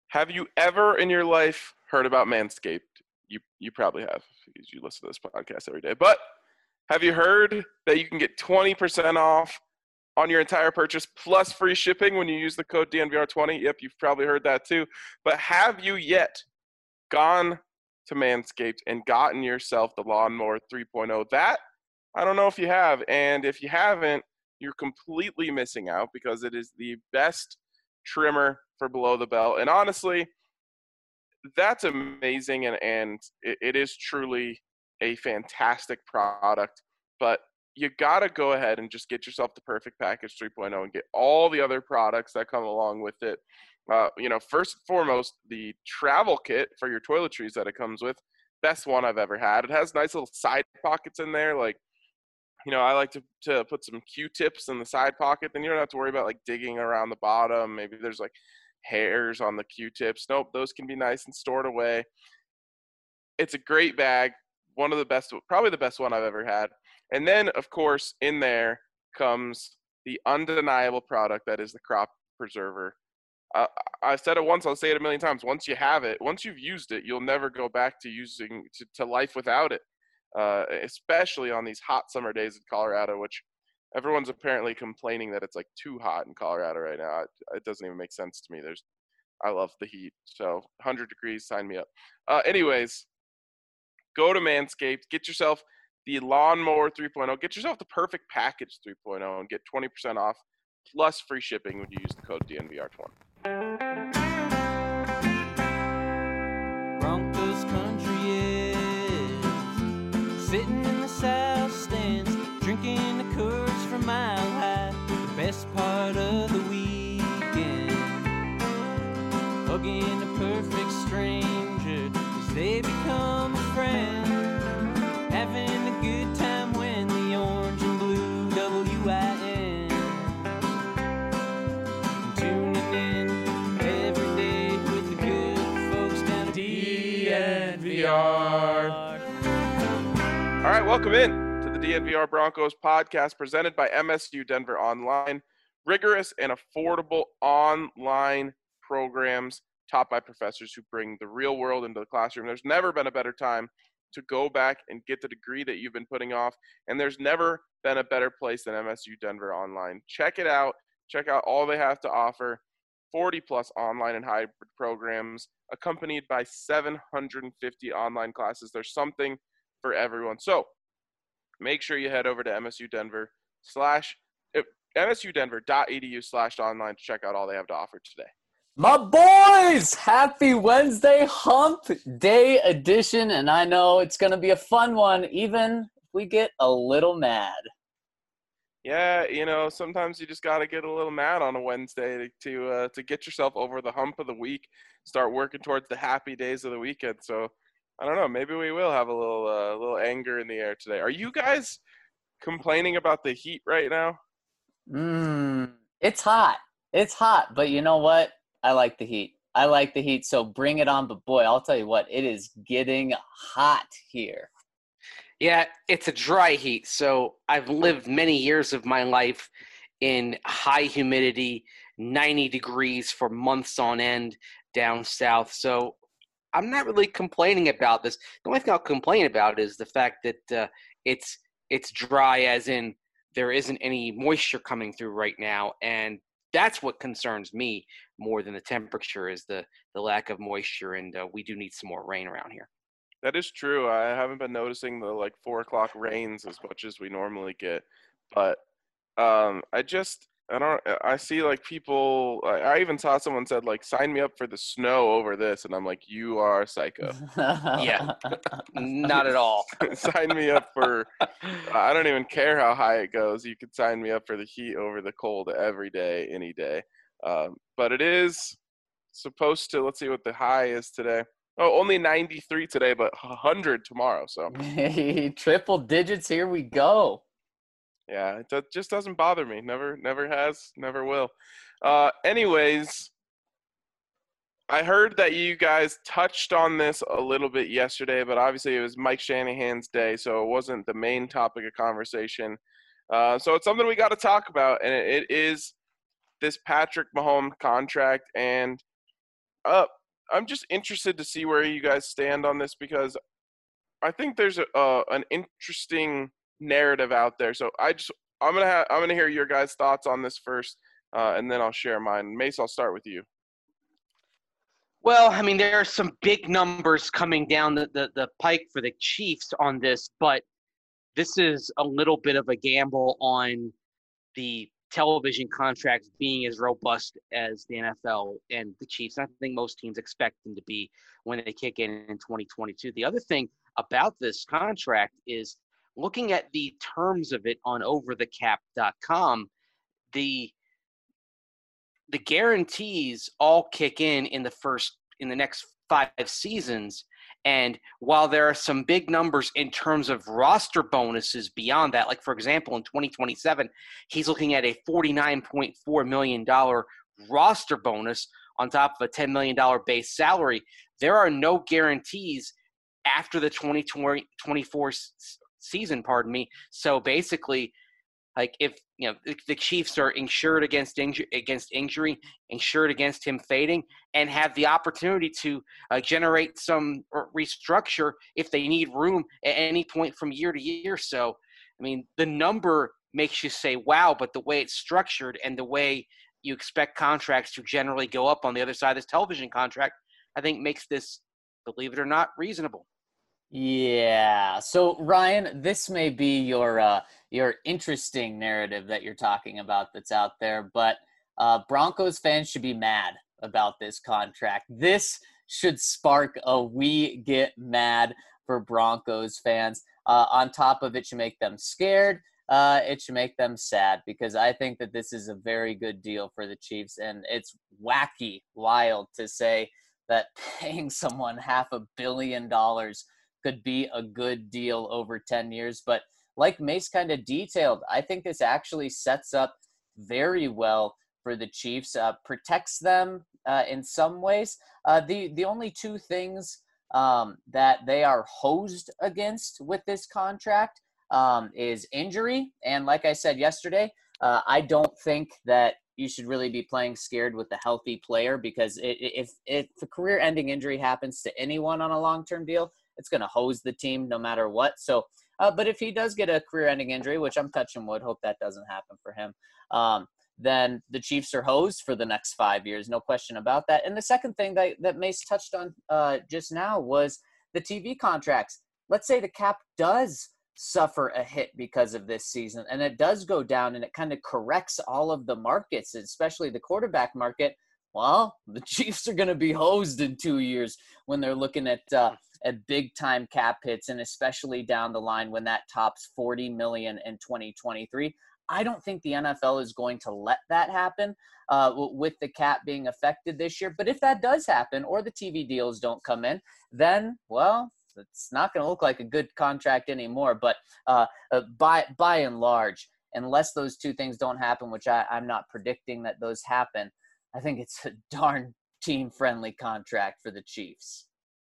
Have you ever in your life heard about Manscaped? You probably have because you listen to this podcast every day. But have you heard that you can get 20% off on your entire purchase plus free shipping when you use the code DNVR20? Yep, you've probably heard that too. But have you yet gone to Manscaped and gotten yourself the Lawnmower 3.0? That, I don't know if you have. And if you haven't, you're completely missing out because it is the best trimmer for below the belt. And honestly, that's amazing. And it is truly a fantastic product. But you got to go ahead and just get yourself the Perfect Package 3.0 and get all the other products that come along with it. First and foremost, the travel kit for your toiletries that it comes with, best one I've ever had. It has nice little side pockets in there. Like, I like to put some Q-tips in the side pocket. Then you don't have to worry about, like, digging around the bottom. Maybe there's, like, hairs on the Q-tips. Nope, those can be nice and stored away. It's a great bag. One of the best, probably the best one I've ever had. And then, of course, in there comes the undeniable product that is the Crop Preserver. I've said it once, I'll say it a million times. Once you have it, once you've used it, you'll never go back to using to life without it, especially on these hot summer days in Colorado, which everyone's apparently complaining that it's like too hot in Colorado right now. It doesn't even make sense to me. I love the heat. So 100 degrees, sign me up. Anyways, go to Manscaped, get yourself the Lawnmower 3.0, get yourself the Perfect Package 3.0, and get 20% off plus free shipping when you use the code DNVR20. Broncos country is sitting in the south stands, drinking the Coors from Mile High, the best part of the weekend, hugging a perfect stranger as they become a friend, having a good time when the orange and blue WIN, tuning in every day with the good folks down at DNVR. All right, welcome in to the DNVR Broncos podcast presented by MSU Denver Online. Rigorous and affordable online programs taught by professors who bring the real world into the classroom. There's never been a better time to go back and get the degree that you've been putting off, and there's never been a better place than MSU Denver Online. Check it out. Check out all they have to offer. 40-plus online and hybrid programs accompanied by 750 online classes. There's something for everyone. So make sure you head over to msudenver.edu/online to check out all they have to offer today. My boys, happy Wednesday, hump day edition, and I know it's going to be a fun one, even if we get a little mad. Yeah, sometimes you just got to get a little mad on a Wednesday to get yourself over the hump of the week, start working towards the happy days of the weekend. So, I don't know, maybe we will have a little anger in the air today. Are you guys complaining about the heat right now? It's hot. It's hot, but you know what? I like the heat. So bring it on. But boy, I'll tell you what, it is getting hot here. Yeah, it's a dry heat. So I've lived many years of my life in high humidity, 90 degrees for months on end down south. So I'm not really complaining about this. The only thing I'll complain about is the fact that it's dry, as in there isn't any moisture coming through right now. And that's what concerns me more than the temperature, is the lack of moisture, and we do need some more rain around here. That is true. I haven't been noticing the 4 o'clock rains as much as we normally get, but I see people. I even saw someone said sign me up for the snow over this, and I'm like, you are a psycho. Yeah, not at all. Sign me up for. I don't even care how high it goes. You could sign me up for the heat over the cold every day, any day. But it is supposed to. Let's see what the high is today. Oh, only 93 today, but 100 tomorrow. So triple digits. Here we go. Yeah, it just doesn't bother me. Never has, never will. Anyways, I heard that you guys touched on this a little bit yesterday, but obviously it was Mike Shanahan's day, so it wasn't the main topic of conversation. So it's something we got to talk about, and it is this Patrick Mahomes contract. And I'm just interested to see where you guys stand on this, because I think there's an interesting narrative out there. So I'm gonna hear your guys' thoughts on this first, and then I'll share mine. Mace, I'll start with you. Well, I mean, there are some big numbers coming down the pike for the Chiefs on this, but this is a little bit of a gamble on the television contracts being as robust as the NFL and the Chiefs. I think most teams expect them to be when they kick in 2022. The other thing about this contract is looking at the terms of it on overthecap.com, the guarantees all kick in the next 5 seasons. And while there are some big numbers in terms of roster bonuses beyond that, like for example, in 2027, he's looking at a $49.4 million roster bonus on top of a $10 million base salary. There are no guarantees after the 2024 season, So basically, like if the Chiefs are insured against injury, insured against him fading, and have the opportunity to generate some restructure if they need room at any point from year to year. So, I mean, the number makes you say, wow, but the way it's structured and the way you expect contracts to generally go up on the other side of this television contract, I think makes this, believe it or not, reasonable. Yeah. So Ryan, this may be your interesting narrative that you're talking about that's out there, but Broncos fans should be mad about this contract. This should spark a "we get mad" for Broncos fans. On top of it, should make them scared. It should make them sad, because I think that this is a very good deal for the Chiefs, and it's wacky, wild to say that paying someone $500 million could be a good deal over 10 years. But like Mace kind of detailed, I think this actually sets up very well for the Chiefs, protects them in some ways. The only two things that they are hosed against with this contract is injury. And like I said yesterday, I don't think that you should really be playing scared with the healthy player, because if a career-ending injury happens to anyone on a long-term deal, it's going to hose the team no matter what. So, but if he does get a career-ending injury, which I'm touching wood, hope that doesn't happen for him, then the Chiefs are hosed for the next 5 years, no question about that. And the second thing that Mace touched on just now was the TV contracts. Let's say the cap does suffer a hit because of this season, and it does go down, and it kind of corrects all of the markets, especially the quarterback market. Well, the Chiefs are going to be hosed in 2 years when they're looking at big-time cap hits, and especially down the line when that tops $40 million in 2023. I don't think the NFL is going to let that happen with the cap being affected this year. But if that does happen, or the TV deals don't come in, then, well, it's not going to look like a good contract anymore. But by and large, unless those two things don't happen, which I'm not predicting that those happen, I think it's a darn team-friendly contract for the Chiefs.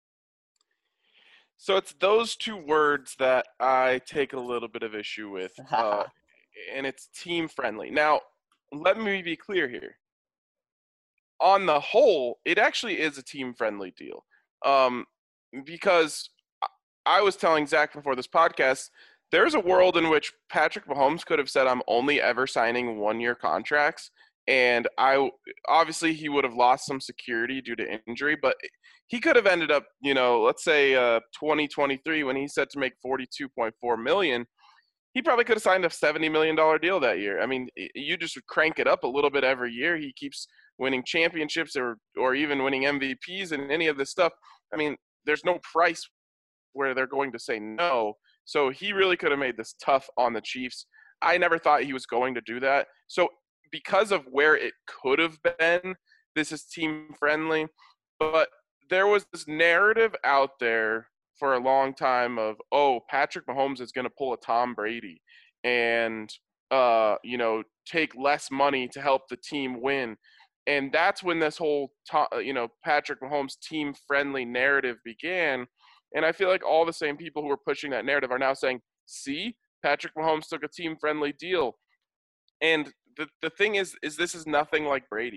So it's those two words that I take a little bit of issue with, and it's team-friendly. Now, let me be clear here. On the whole, it actually is a team-friendly deal, because I was telling Zach before this podcast, there's a world in which Patrick Mahomes could have said, I'm only ever signing one-year contracts. And obviously he would have lost some security due to injury, but he could have ended up, let's say 2023 when he's set to make $42.4 million, he probably could have signed a $70 million deal that year. I mean, you just crank it up a little bit every year. He keeps winning championships or even winning MVPs and any of this stuff. I mean, there's no price where they're going to say no. So he really could have made this tough on the Chiefs. I never thought he was going to do that. So because of where it could have been, this is team-friendly. But there was this narrative out there for a long time of, Patrick Mahomes is going to pull a Tom Brady and, take less money to help the team win. And that's when this whole, Patrick Mahomes team-friendly narrative began. And I feel like all the same people who were pushing that narrative are now saying, see, Patrick Mahomes took a team-friendly deal. And the thing is this is nothing like Brady.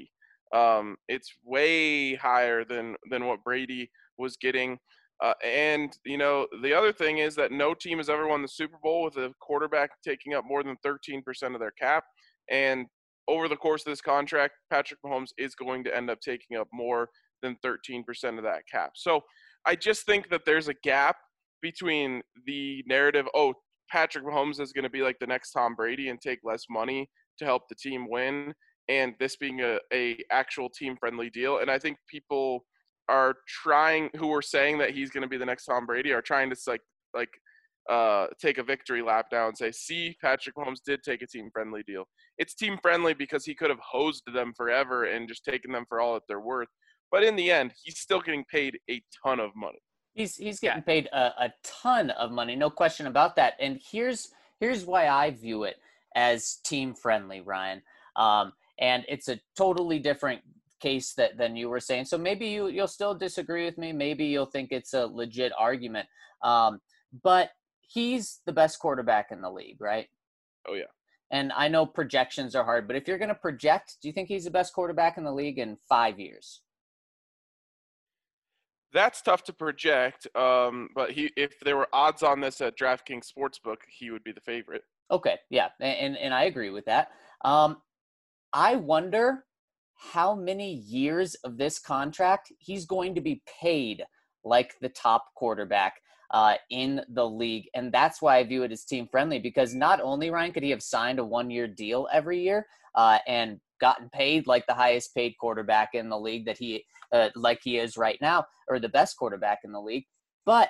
It's way higher than what Brady was getting. And, the other thing is that no team has ever won the Super Bowl with a quarterback taking up more than 13% of their cap. And over the course of this contract, Patrick Mahomes is going to end up taking up more than 13% of that cap. So I just think that there's a gap between the narrative, oh, Patrick Mahomes is going to be like the next Tom Brady and take less money to help the team win, and this being a actual team friendly deal. And I think people are who are saying that he's going to be the next Tom Brady, are trying to take a victory lap now and say, see, Patrick Mahomes did take a team friendly deal. It's team friendly because he could have hosed them forever and just taken them for all that they're worth. But in the end, he's still getting paid a ton of money. He's getting paid a ton of money, no question about that. And here's why I view it as team friendly, Ryan. And it's a totally different case than you were saying. So maybe you'll still disagree with me. Maybe you'll think it's a legit argument. But he's the best quarterback in the league, right? Oh, yeah. And I know projections are hard, but if you're going to project, do you think he's the best quarterback in the league in 5 years? That's tough to project, but if there were odds on this at DraftKings Sportsbook, he would be the favorite. Okay, yeah, and I agree with that. I wonder how many years of this contract he's going to be paid like the top quarterback in the league, and that's why I view it as team friendly, because not only, Ryan, could he have signed a 1-year deal every year and gotten paid like the highest paid quarterback in the league that he like he is right now, or the best quarterback in the league, but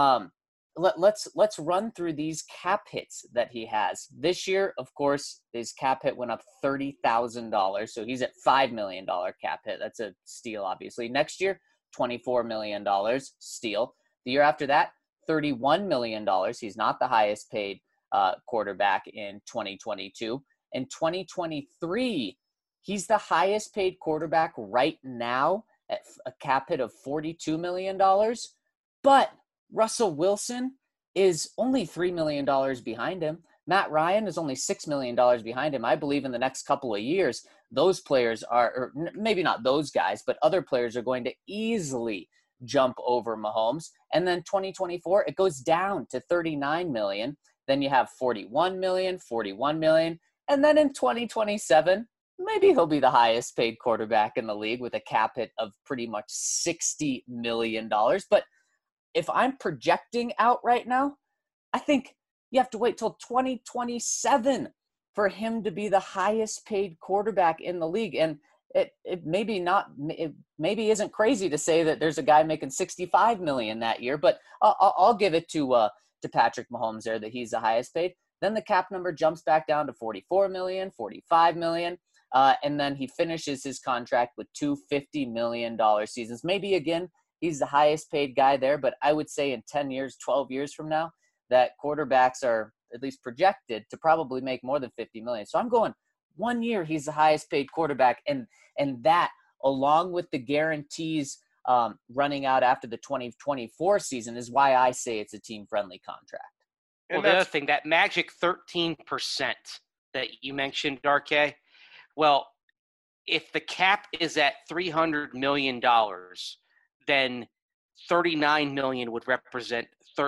let's run through these cap hits that he has this year. Of course, his cap hit went up $30,000, so he's at $5 million cap hit. That's a steal, obviously. Next year, $24 million, steal. The year after that, $31 million. He's not the highest paid quarterback in 2022. In 2023, he's the highest paid quarterback right now at a cap hit of $42 million. But Russell Wilson is only $3 million behind him. Matt Ryan is only $6 million behind him. I believe in the next couple of years, those players are, or maybe not those guys, but other players are going to easily jump over Mahomes. And then 2024, it goes down to $39 million. Then you have $41 million, $41 million. And then in 2027, maybe he'll be the highest paid quarterback in the league with a cap hit of pretty much $60 million. But if I'm projecting out right now, I think you have to wait till 2027 for him to be the highest paid quarterback in the league. And it maybe isn't crazy to say that there's a guy making $65 million that year, but I'll give it to Patrick Mahomes there that he's the highest paid. Then the cap number jumps back down to $44 million, $45 million. And then he finishes his contract with two $50 million seasons. Maybe, again, he's the highest paid guy there, but I would say in 10 years, 12 years from now, that quarterbacks are at least projected to probably make more than $50 million. So I'm going 1 year, he's the highest paid quarterback. And that, along with the guarantees running out after the 2024 season, is why I say it's a team-friendly contract. Well, the other thing, that magic 13% that you mentioned, RK, well, if the cap is at $300 million, then $39 million would represent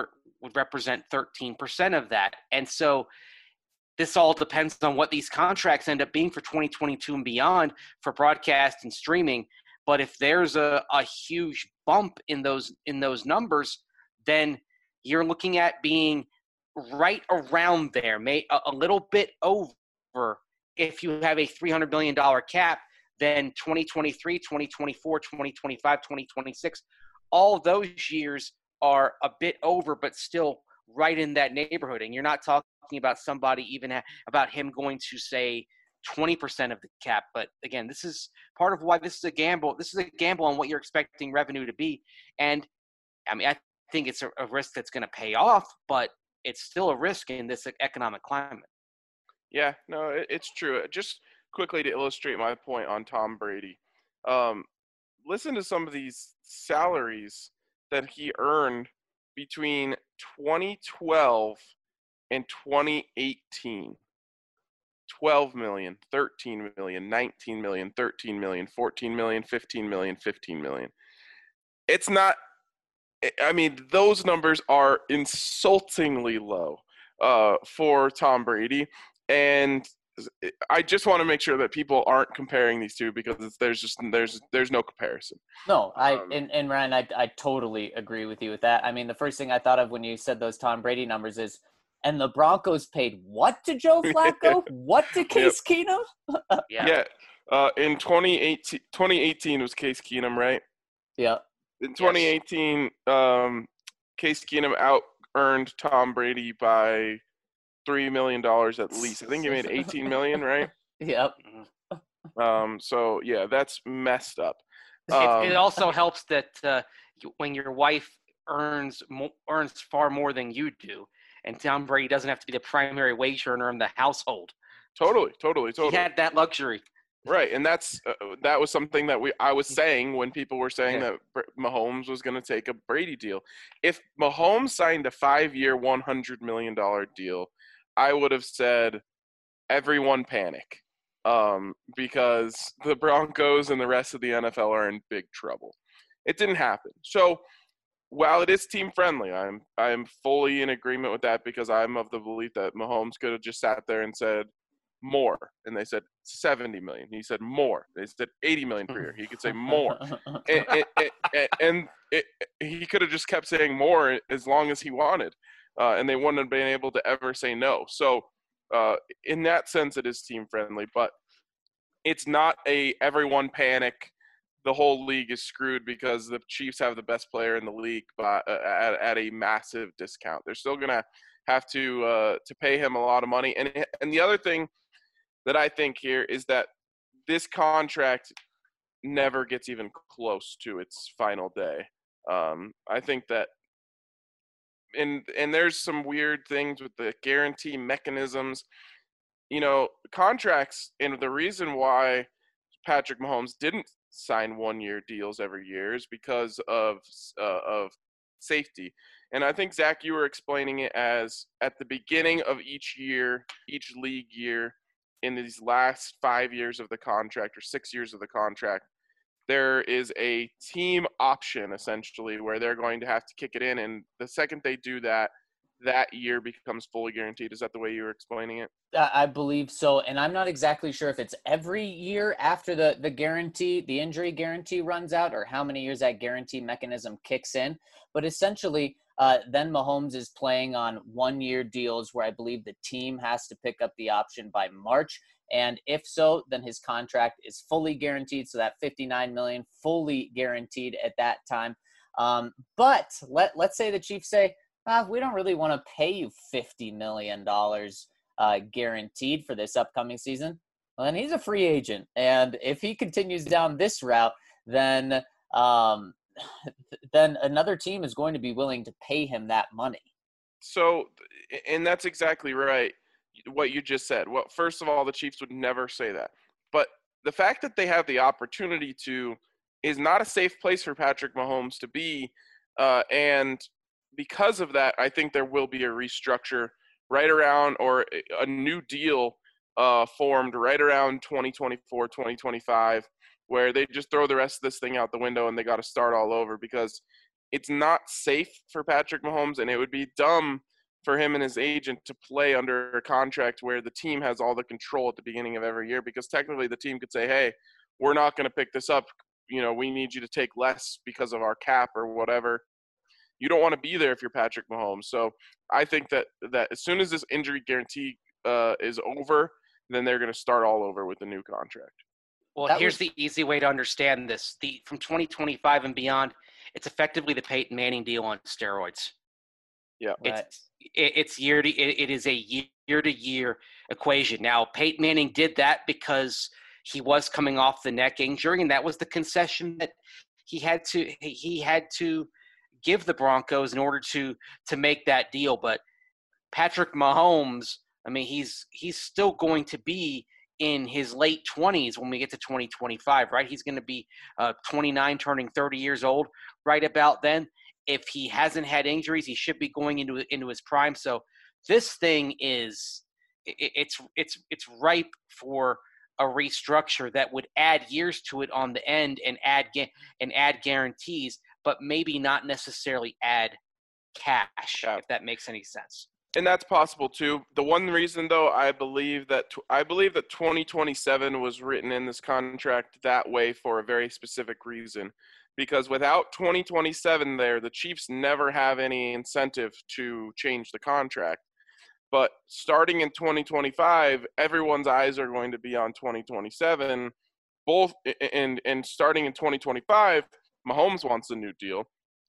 13% of that. And so this all depends on what these contracts end up being for 2022 and beyond for broadcast and streaming. But if there's a huge bump in those numbers, then you're looking at being right around there, a little bit over. If you have a $300 million cap, then 2023, 2024, 2025, 2026, all those years are a bit over, but still right in that neighborhood. And you're not talking about somebody about him going to, say, 20% of the cap. But again, this is part of why this is a gamble. This is a gamble on what you're expecting revenue to be. And I mean, I think it's a risk that's going to pay off, but it's still a risk in this economic climate. Yeah, no, it's true. Just quickly to illustrate my point on Tom Brady, listen to some of these salaries that he earned between 2012 and 2018. 12 million, 13 million, 19 million, 13 million, 14 million, 15 million, 15 million. It's not, I mean, those numbers are insultingly low for Tom Brady. And I just want to make sure that people aren't comparing these two because there's no comparison. No, and Ryan, I totally agree with you with that. I mean, the first thing I thought of when you said those Tom Brady numbers is, and the Broncos paid what to Joe Flacco? What to Case Keenum? Yeah. In 2018 was Case Keenum, right? Yeah. In 2018, Case Keenum out-earned Tom Brady by $3 million at least. I think he made $18 million, right? Yep. So, yeah, that's messed up. It also helps that when your wife earns far more than you do, and Tom Brady doesn't have to be the primary wage earner in the household. Totally. He had that luxury. Right, and that was something that I was saying when people were saying that Mahomes was going to take a Brady deal. If Mahomes signed a 5-year, $100 million deal, I would have said, everyone panic, because the Broncos and the rest of the NFL are in big trouble. It didn't happen. So while it is team friendly, I'm fully in agreement with that because I'm of the belief that Mahomes could have just sat there and said more, and they said 70 million. He said more. They said 80 million per year. He could say more, and he could have just kept saying more as long as he wanted, and they wouldn't have been able to ever say no. So in that sense, it is team friendly, but it's not a everyone panic. The whole league is screwed because the Chiefs have the best player in the league at a massive discount. They're still going to have to pay him a lot of money. And the other thing that I think here is that this contract never gets even close to its final day. I think that and there's some weird things with the guarantee mechanisms. Contracts, and the reason why Patrick Mahomes didn't sign 1-year deals every year is because of safety. And I think, Zach, you were explaining it as at the beginning of each year, each league year, in these last 5 years of the contract or 6 years of the contract, there is a team option essentially where they're going to have to kick it in. And the second they do that, that year becomes fully guaranteed. Is that the way you were explaining it? I believe so, and I'm not exactly sure if it's every year after the guarantee, the injury guarantee runs out, or how many years that guarantee mechanism kicks in. But essentially, then Mahomes is playing on 1-year deals where I believe the team has to pick up the option by March. And if so, then his contract is fully guaranteed. So that $59 million fully guaranteed at that time. But let's say the Chiefs say, we don't really want to pay you $50 million guaranteed for this upcoming season. Well, then he's a free agent. And if he continues down this route, then another team is going to be willing to pay him that money. So, and that's exactly right, what you just said. Well, first of all, the Chiefs would never say that. But the fact that they have the opportunity to is not a safe place for Patrick Mahomes to be. And because of that, I think there will be a restructure right around, or a new deal formed right around 2024, 2025, where they just throw the rest of this thing out the window and they got to start all over, because it's not safe for Patrick Mahomes, and it would be dumb for him and his agent to play under a contract where the team has all the control at the beginning of every year, because technically the team could say, hey, we're not going to pick this up. We need you to take less because of our cap or whatever. You don't want to be there if you're Patrick Mahomes. So I think that as soon as this injury guarantee is over, then they're going to start all over with the new contract. Well, here's the easy way to understand this. From 2025 and beyond, it's effectively the Peyton Manning deal on steroids. Yeah, it is a year-to-year equation. Now, Peyton Manning did that because he was coming off the neck injury, and that was the concession that he had to give the Broncos in order to make that deal. But Patrick Mahomes, I mean, he's still going to be in his late 20s when we get to 2025, right? He's going to be 29, turning 30 years old right about then. If he hasn't had injuries, he should be going into his prime. So this thing is it's ripe for a restructure that would add years to it on the end and add guarantees, but maybe not necessarily add cash, Yeah. if that makes any sense. And that's possible too. The one reason, though, I believe that 2027 was written in this contract that way for a very specific reason. Because without 2027 there, the Chiefs never have any incentive to change the contract. But starting in 2025, everyone's eyes are going to be on 2027. And starting in 2025, Mahomes wants a new deal,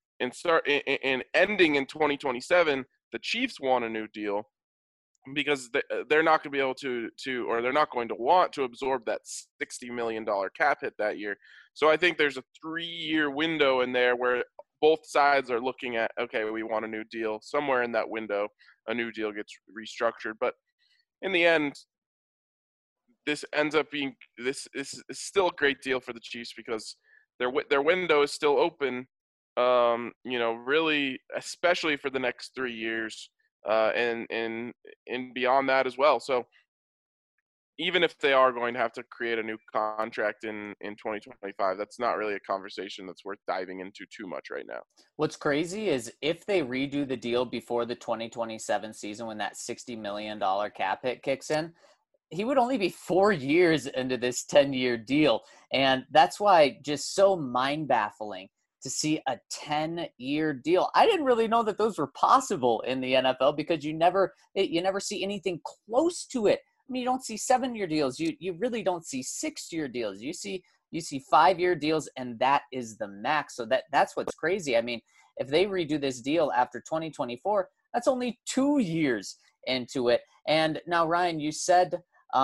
and ending in 2027, the Chiefs want a new deal because they're not going to be able to or they're not going to want to absorb that $60 million cap hit that year. So I think there's a 3-year window in there where both sides are looking at, okay, we want a new deal. Somewhere in that window, a new deal gets restructured. But in the end, this ends up being this is still a great deal for the Chiefs because their window is still open. Really, especially for the next 3 years, and beyond that as well. So even if they are going to have to create a new contract in 2025, that's not really a conversation that's worth diving into too much right now. What's crazy is if they redo the deal before the 2027 season, when that $60 million cap hit kicks in, he would only be 4 years into this 10-year deal. And that's why just so mind-baffling to see a 10-year deal. I didn't really know that those were possible in the NFL because you never see anything close to it. I mean, you don't see 7-year deals. You really don't see 6-year deals. You see 5-year deals, and that is the max. So that's what's crazy. I mean, if they redo this deal after 2024, that's only 2 years into it. And now, Ryan, you said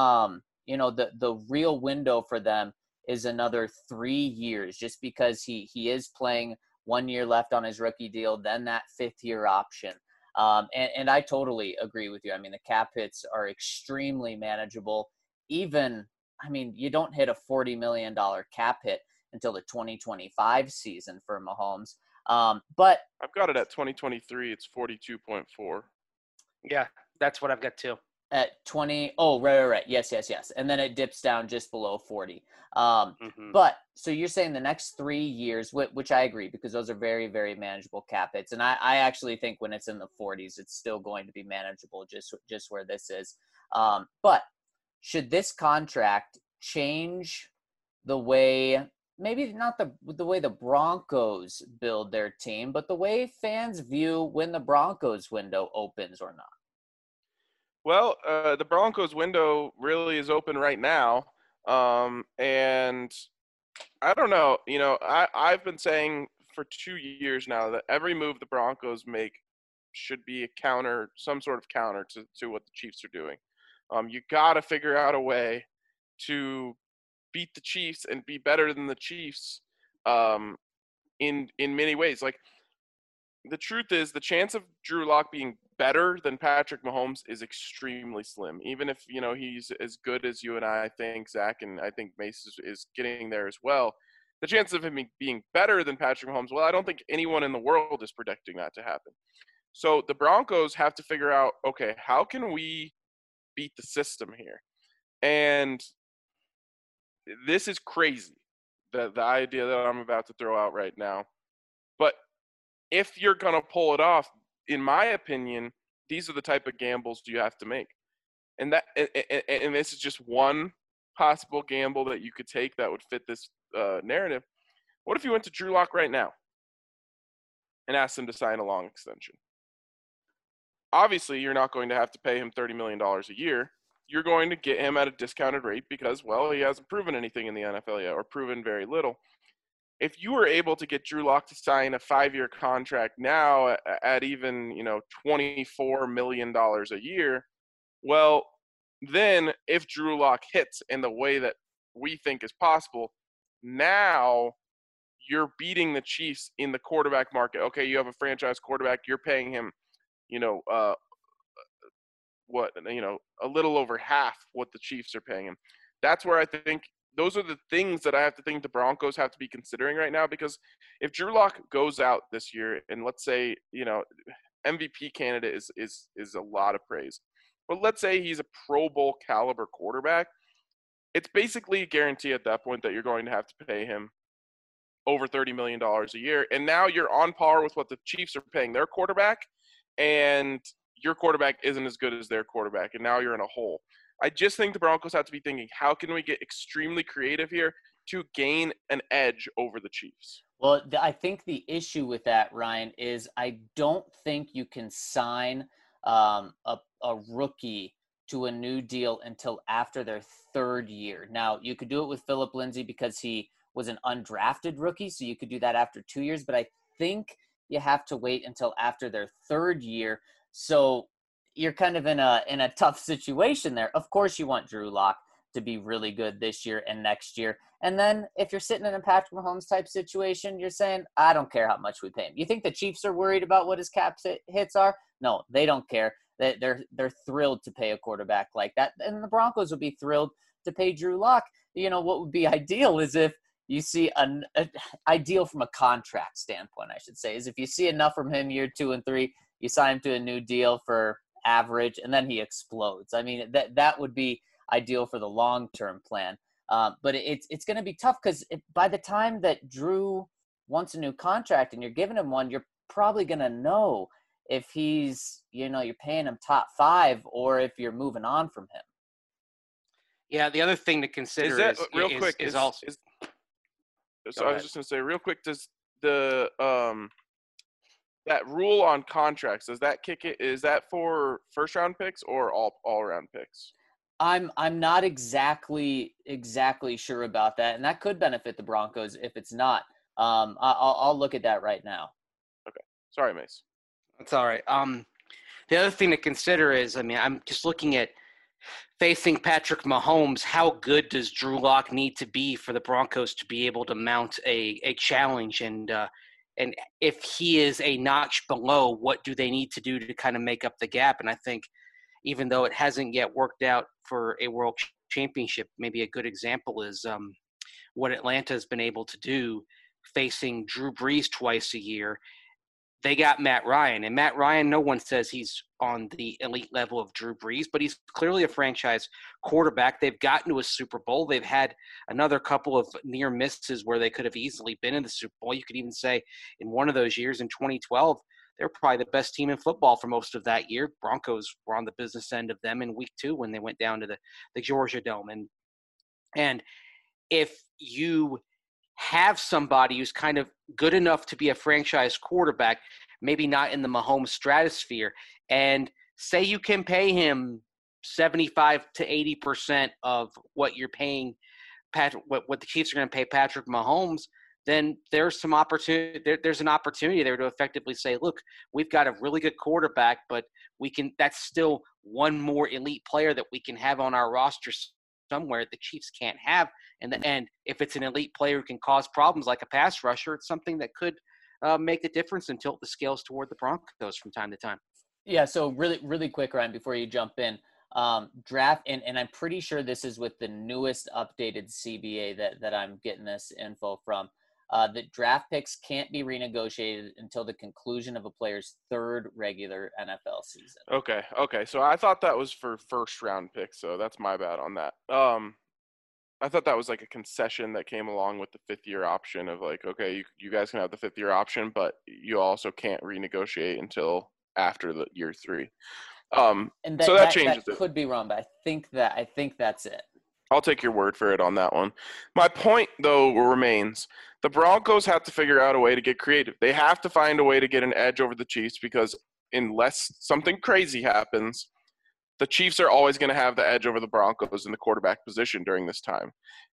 the real window for them is another 3 years, just because he is playing 1 year left on his rookie deal, then that 5th year option. And I totally agree with you. I mean, the cap hits are extremely manageable. Even, I mean, you don't hit a $40 million cap hit until the 2025 season for Mahomes. But I've got it at 2023. It's 42.4. Yeah, that's what I've got too. At 20, oh, right. Yes. And then it dips down just below 40. But so you're saying the next 3 years, which I agree, because those are very, very manageable cap hits. And I actually think when it's in the 40s, it's still going to be manageable just where this is. But should this contract change the way, maybe not the way the Broncos build their team, but the way fans view when the Broncos window opens or not? Well, the Broncos window really is open right now. And I don't know, I've been saying for 2 years now that every move the Broncos make should be some sort of counter to what the Chiefs are doing. You got to figure out a way to beat the Chiefs and be better than the Chiefs in many ways. Like, the truth is, the chance of Drew Lock being better than Patrick Mahomes is extremely slim. Even if, he's as good as you and I think, Zach, and I think Mace is getting there as well. The chance of him being better than Patrick Mahomes, well, I don't think anyone in the world is predicting that to happen. So the Broncos have to figure out, okay, how can we beat the system here? And this is crazy, the idea that I'm about to throw out right now. But if you're going to pull it off, in my opinion, these are the type of gambles you have to make. And this is just one possible gamble that you could take that would fit this narrative. What if you went to Drew Lock right now and asked him to sign a long extension? Obviously, you're not going to have to pay him $30 million a year. You're going to get him at a discounted rate because, well, he hasn't proven anything in the NFL yet, or proven very little. If you were able to get Drew Lock to sign a 5-year contract now at even, $24 million a year, well, then if Drew Lock hits in the way that we think is possible, now you're beating the Chiefs in the quarterback market. Okay, you have a franchise quarterback, you're paying him, a little over half what the Chiefs are paying him. That's where I think those are the things that I have to think the Broncos have to be considering right now, because if Drew Lock goes out this year and let's say, MVP candidate is a lot of praise. but let's say he's a Pro Bowl caliber quarterback, it's basically a guarantee at that point that you're going to have to pay him over $30 million a year. And now you're on par with what the Chiefs are paying their quarterback, and your quarterback isn't as good as their quarterback, and now you're in a hole. I just think the Broncos have to be thinking, how can we get extremely creative here to gain an edge over the Chiefs? Well, I think the issue with that, Ryan, is I don't think you can sign a rookie to a new deal until after their third year. Now, you could do it with Philip Lindsay because he was an undrafted rookie, so you could do that after 2 years, but I think you have to wait until after their third year. So you're kind of in a tough situation there. Of course, you want Drew Lock to be really good this year and next year. And then if you're sitting in a Patrick Mahomes type situation, you're saying, I don't care how much we pay him. You think the Chiefs are worried about what his cap hits are? No, they don't care. They're thrilled to pay a quarterback like that. And the Broncos would be thrilled to pay Drew Lock. You know, what would be ideal is if you see ideal from a contract standpoint, I should say, is if you see enough from him year 2 and 3, you sign him to a new deal for average, and then he explodes. I mean, that would be ideal for the long-term plan. But it's going to be tough because by the time that Drew wants a new contract and you're giving him one, you're probably going to know if he's, you're paying him top 5 or if you're moving on from him. Yeah, the other thing to consider is also. So I was just going to say real quick, does the that rule on contracts, does that kick it? Is that for first round picks or all around picks? I'm not exactly sure about that, and that could benefit the Broncos if it's not. I'll look at that right now. Okay, sorry, Mace. That's all right. The other thing to consider is, I'm just looking at facing Patrick Mahomes. How good does Drew Lock need to be for the Broncos to be able to mount a challenge? And if he is a notch below, what do they need to do to kind of make up the gap? And I think even though it hasn't yet worked out for a world championship, maybe a good example is what Atlanta has been able to do facing Drew Brees twice a year. They got Matt Ryan, and Matt Ryan, no one says he's on the elite level of Drew Brees, but he's clearly a franchise quarterback. They've gotten to a Super Bowl. They've had another couple of near misses where they could have easily been in the Super Bowl. You could even say in one of those years in 2012, they're probably the best team in football for most of that year. Broncos were on the business end of them in week 2 when they went down to the Georgia Dome. And if you have somebody who's kind of good enough to be a franchise quarterback, maybe not in the Mahomes stratosphere, and say you can pay him 75 to 80% of what you're paying what the Chiefs are going to pay Patrick Mahomes, then there's some opportunity. There's an opportunity there to effectively say, look, we've got a really good quarterback, but that's still one more elite player that we can have on our roster somewhere the Chiefs can't have. And if it's an elite player who can cause problems like a pass rusher, it's something that could make the difference and tilt the scales toward the Broncos from time to time. Yeah, so really, really quick, Ryan, before you jump in, draft, and I'm pretty sure this is with the newest updated CBA that I'm getting this info from, that draft picks can't be renegotiated until the conclusion of a player's third regular NFL season. Okay. So I thought that was for first round picks, so that's my bad on that. I thought that was like a concession that came along with the 5th-year option of like, okay, you guys can have the 5th-year option, but you also can't renegotiate until after the year 3. And so that changes that could be wrong, but I think that's it. I'll take your word for it on that one. My point, though, remains the Broncos have to figure out a way to get creative. They have to find a way to get an edge over the Chiefs because unless something crazy happens, the Chiefs are always going to have the edge over the Broncos in the quarterback position during this time.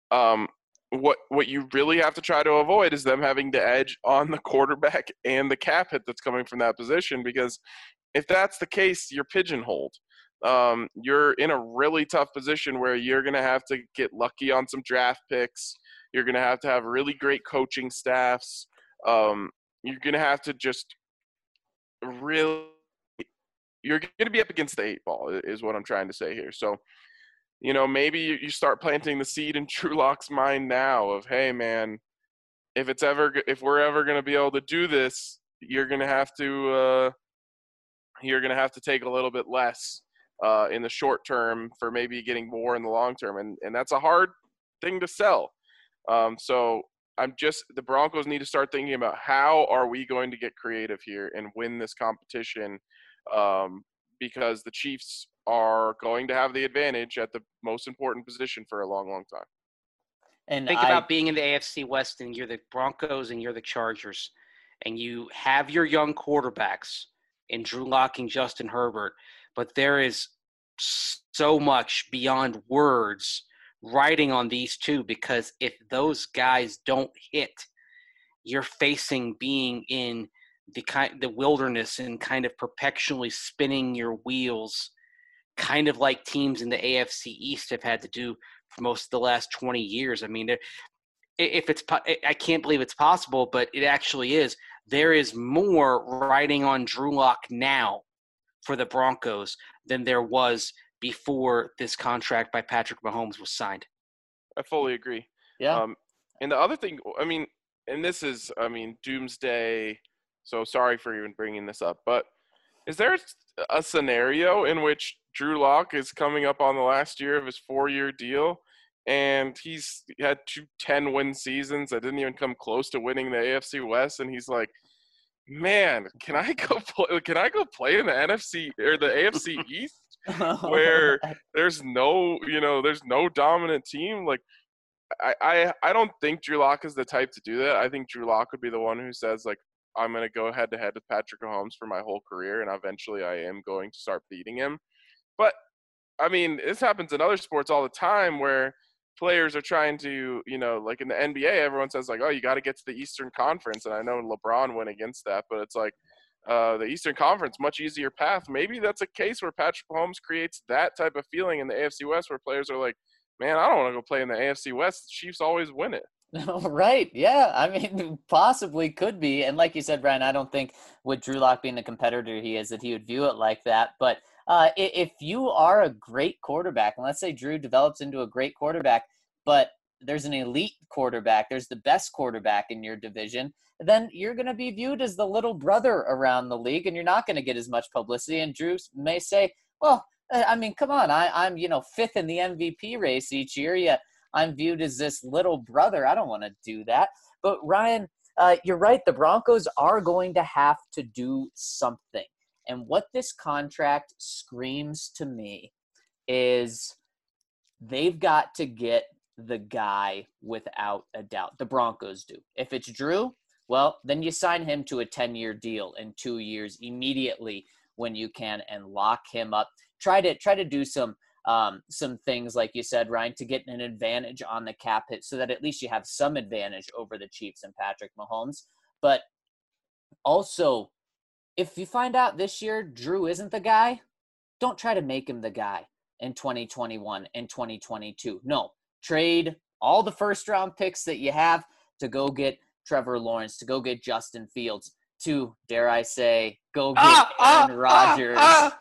What you really have to try to avoid is them having the edge on the quarterback and the cap hit that's coming from that position, because if that's the case, you're pigeonholed. You're in a really tough position where you're going to have to get lucky on some draft picks. You're going to have really great coaching staffs. You're going to have to just really – you're going to be up against the 8 ball is what I'm trying to say here. So, maybe you start planting the seed in Drew Lock's mind now of, hey, man, if we're ever going to be able to do this, you're going to have to take a little bit less. in the short term for maybe getting more in the long term, and that's a hard thing to sell. So the Broncos need to start thinking about how are we going to get creative here and win this competition, because the Chiefs are going to have the advantage at the most important position for a long, long time. And Think about being in the AFC West and you're the Broncos and you're the Chargers, and you have your young quarterbacks in Drew Lock and Justin Herbert, but there is so much beyond words riding on these two, because if those guys don't hit, you're facing being in the wilderness and kind of perpetually spinning your wheels, kind of like teams in the AFC East have had to do for most of the last 20 years. I mean, I can't believe it's possible, but it actually is. There is more riding on Drew Lock now for the Broncos than there was before this contract by Patrick Mahomes was signed. I fully agree. Yeah. And the other thing, I mean, and this is, I mean, doomsday, so sorry for even bringing this up, but is there a scenario in which Drew Lock is coming up on the last year of his 4-year deal, and he's had 2 10-win seasons that didn't even come close to winning the AFC West, and he's like, man, can I go play in the NFC or the AFC East where there's no dominant team? Like, I don't think Drew Lock is the type to do that. I think Drew Lock would be the one who says, like, I'm going to go head-to-head with Patrick Mahomes for my whole career, and eventually I am going to start beating him. But, I mean, this happens in other sports all the time where players are trying to, like in the NBA, everyone says, like, oh, you got to get to the Eastern Conference. And I know LeBron went against that, but it's like the Eastern Conference, much easier path. Maybe that's a case where Patrick Mahomes creates that type of feeling in the AFC West where players are like, man, I don't want to go play in the AFC West. The Chiefs always win it. Right. Yeah. I mean, possibly could be. And like you said, Brian, I don't think with Drew Lock being the competitor he is that he would view it like that. But if you are a great quarterback, and let's say Drew develops into a great quarterback, but there's an elite quarterback, there's the best quarterback in your division, then you're going to be viewed as the little brother around the league, and you're not going to get as much publicity. And Drew may say, well, I mean, come on, I'm 5th in the MVP race each year. Yeah, I'm viewed as this little brother. I don't want to do that. But Ryan, you're right. The Broncos are going to have to do something. And what this contract screams to me is they've got to get the guy without a doubt. The Broncos do. If it's Drew, well, then you sign him to a 10-year deal in 2 years immediately when you can and lock him up. Try to do some things, like you said, Ryan, to get an advantage on the cap hit so that at least you have some advantage over the Chiefs and Patrick Mahomes. But also, if you find out this year Drew isn't the guy, don't try to make him the guy in 2021 and 2022. No, trade all the first-round picks that you have to go get Trevor Lawrence, to go get Justin Fields, to, dare I say, go get Aaron Rodgers.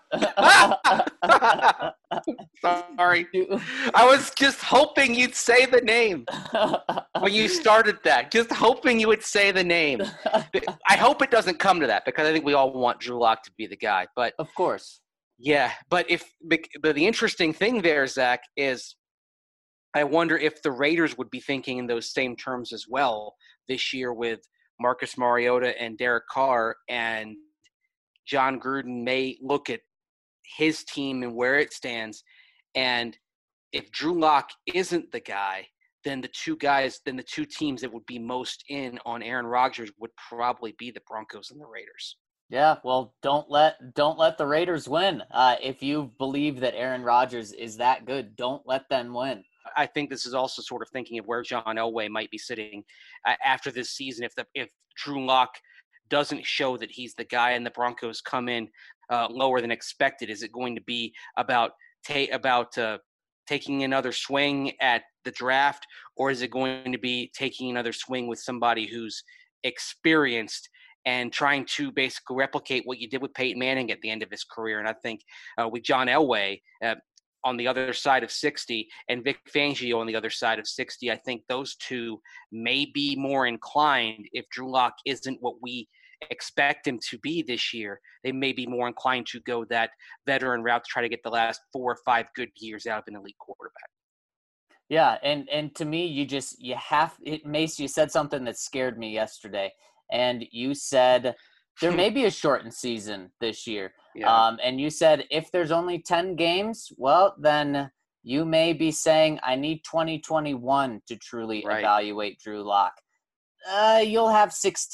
Sorry. I was just hoping you'd say the name when you started that. Just hoping you would say the name. I hope it doesn't come to that, because I think we all want Drew Lock to be the guy. But of course. Yeah, but the interesting thing there, Zach, is I wonder if the Raiders would be thinking in those same terms as well this year with Marcus Mariota and Derek Carr, and John Gruden may look at his team and where it stands. And if Drew Lock isn't the guy, then the two teams that would be most in on Aaron Rodgers would probably be the Broncos and the Raiders. Yeah, well, don't let the Raiders win. If you believe that Aaron Rodgers is that good, don't let them win. I think this is also sort of thinking of where John Elway might be sitting after this season. If Drew Lock doesn't show that he's the guy and the Broncos come in lower than expected, is it going to be about taking another swing at the draft, or is it going to be taking another swing with somebody who's experienced and trying to basically replicate what you did with Peyton Manning at the end of his career? And I think with John Elway on the other side of 60 and Vic Fangio on the other side of 60, I think those two may be more inclined, if Drew Lock isn't what we expect him to be this year, they may be more inclined to go that veteran route to try to get the last 4 or 5 good years out of an elite quarterback. Yeah, and to me, Mace, you said something that scared me yesterday, and you said there may be a shortened season this year. Yeah. And you said if there's only 10 games, well, then you may be saying I need 2021 to truly Right. evaluate Drew Lock. You'll have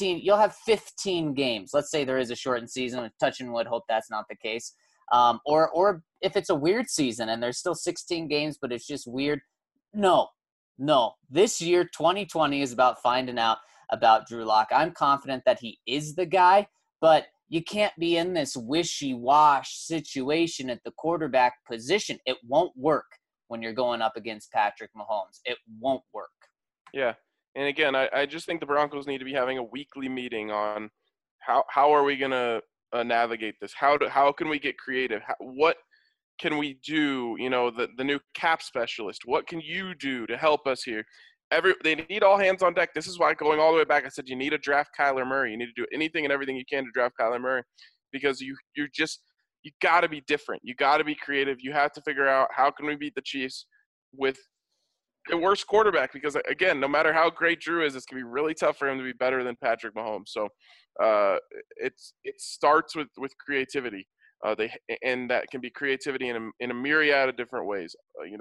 15 games. Let's say there is a shortened season. Touch and wood, hope that's not the case. Or if it's a weird season and there's still 16 games, but it's just weird. No. This year, 2020, is about finding out about Drew Lock. I'm confident that he is the guy, but you can't be in this wishy-wash situation at the quarterback position. It won't work when you're going up against Patrick Mahomes. It won't work. Yeah. And again, I just think the Broncos need to be having a weekly meeting on how are we going to navigate this? How can we get creative? What can we do? You know, the new cap specialist, what can you do to help us here? They need all hands on deck. This is why, going all the way back, I said you need to draft Kyler Murray. You need to do anything and everything you can to draft Kyler Murray, because you got to be different. You got to be creative. You have to figure out how can we beat the Chiefs with the worst quarterback, because again, no matter how great Drew is, it's gonna be really tough for him to be better than Patrick Mahomes. So it starts with creativity. And that can be creativity in a myriad of different ways.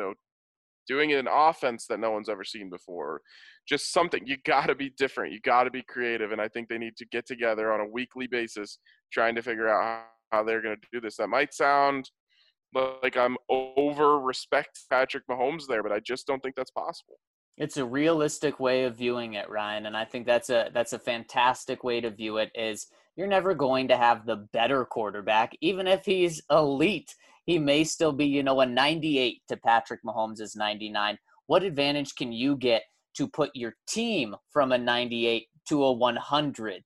Doing an offense that no one's ever seen before, just something. You got to be different. You got to be creative, and I think they need to get together on a weekly basis, trying to figure out how they're going to do this. That might sound like I'm over respect Patrick Mahomes there, but I just don't think that's possible. It's a realistic way of viewing it, Ryan, and I think that's a fantastic way to view it. Is you're never going to have the better quarterback, even if he's elite. He may still be, a 98 to Patrick Mahomes' 99. What advantage can you get to put your team from a 98 to a 100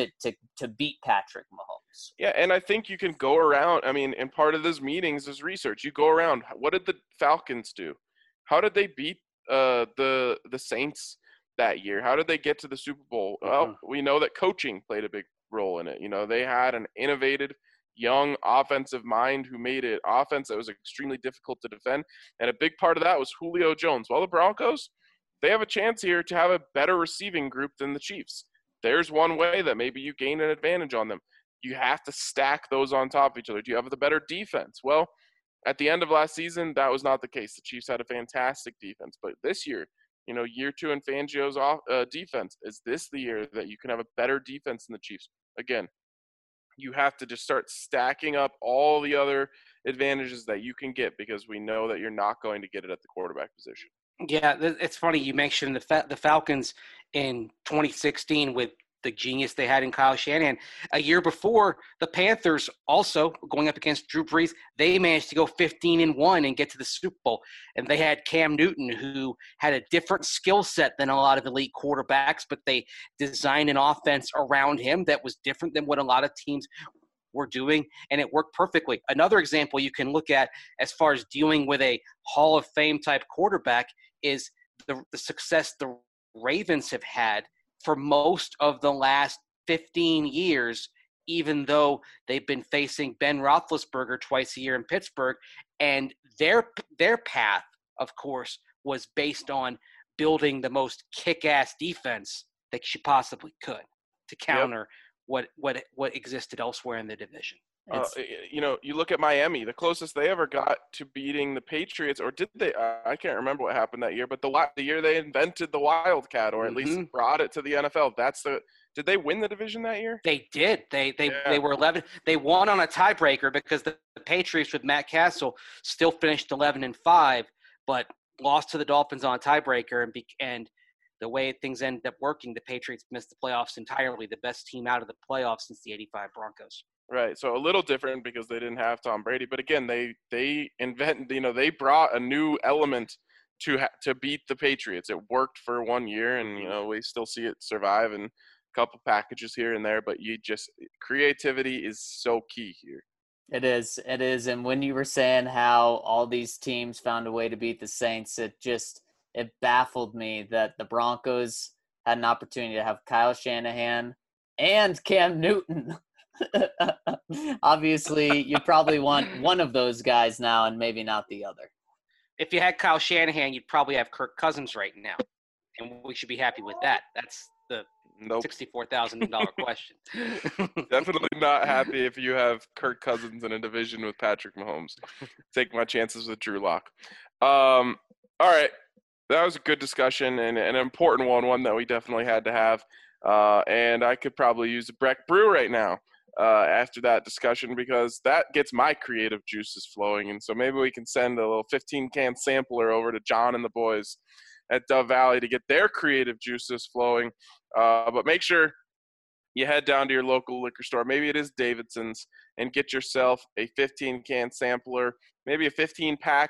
to beat Patrick Mahomes? Yeah, and I think you can go around. I mean, and part of those meetings is research. You go around. What did the Falcons do? How did they beat the Saints that year? How did they get to the Super Bowl? Well, we know that coaching played a big role in it. They had an innovative young offensive mind who made it offense that was extremely difficult to defend, and a big part of that was Julio Jones. Well, the Broncos, they have a chance here to have a better receiving group than the Chiefs. There's one way that maybe you gain an advantage on them. You have to stack those on top of each other. Do you have the better defense? Well, at the end of last season, that was not the case. The Chiefs had a fantastic defense. But this year, year 2 in Fangio's defense, is this the year that you can have a better defense than the Chiefs? Again, you have to just start stacking up all the other advantages that you can get, because we know that you're not going to get it at the quarterback position. Yeah, it's funny you mentioned the Falcons in 2016 with the genius they had in Kyle Shanahan. A year before, the Panthers, also going up against Drew Brees, they managed to go 15-1 and get to the Super Bowl. And they had Cam Newton, who had a different skill set than a lot of elite quarterbacks, but they designed an offense around him that was different than what a lot of teams were doing, and it worked perfectly. Another example you can look at as far as dealing with a Hall of Fame type quarterback is the success the Ravens have had for most of the last 15 years, even though they've been facing Ben Roethlisberger twice a year in Pittsburgh. And their path, of course, was based on building the most kick-ass defense that you possibly could to counter what existed elsewhere in the division. You look at Miami, the closest they ever got to beating the Patriots, or did they? I can't remember what happened that year, but the year they invented the Wildcat, or at least brought it to the NFL. Did they win the division that year? They did. They were 11. They won on a tiebreaker because the Patriots with Matt Castle still finished 11-5, but lost to the Dolphins on a tiebreaker, and the way things ended up working, the Patriots missed the playoffs entirely. The best team out of the playoffs since the '85 Broncos. Right, so a little different because they didn't have Tom Brady, but again, they they brought a new element to beat the Patriots. It worked for 1 year, and we still see it survive in a couple packages here and there. But creativity is so key here. It is, and when you were saying how all these teams found a way to beat the Saints, it baffled me that the Broncos had an opportunity to have Kyle Shanahan and Cam Newton. Obviously, you probably want one of those guys now and maybe not the other. If you had Kyle Shanahan, you'd probably have Kirk Cousins right now, and we should be happy with that. That's the Nope. $64,000 question. Definitely not happy if you have Kirk Cousins in a division with Patrick Mahomes. Take my chances with Drew Lock. All right. That was a good discussion and an important one that we definitely had to have. And I could probably use a Breck Brew right now after that discussion because that gets my creative juices flowing. And so maybe we can send a little 15-can sampler over to John and the boys at Dove Valley to get their creative juices flowing. But make sure you head down to your local liquor store. Maybe it is Davidson's, and get yourself a 15-can sampler, maybe a 15-pack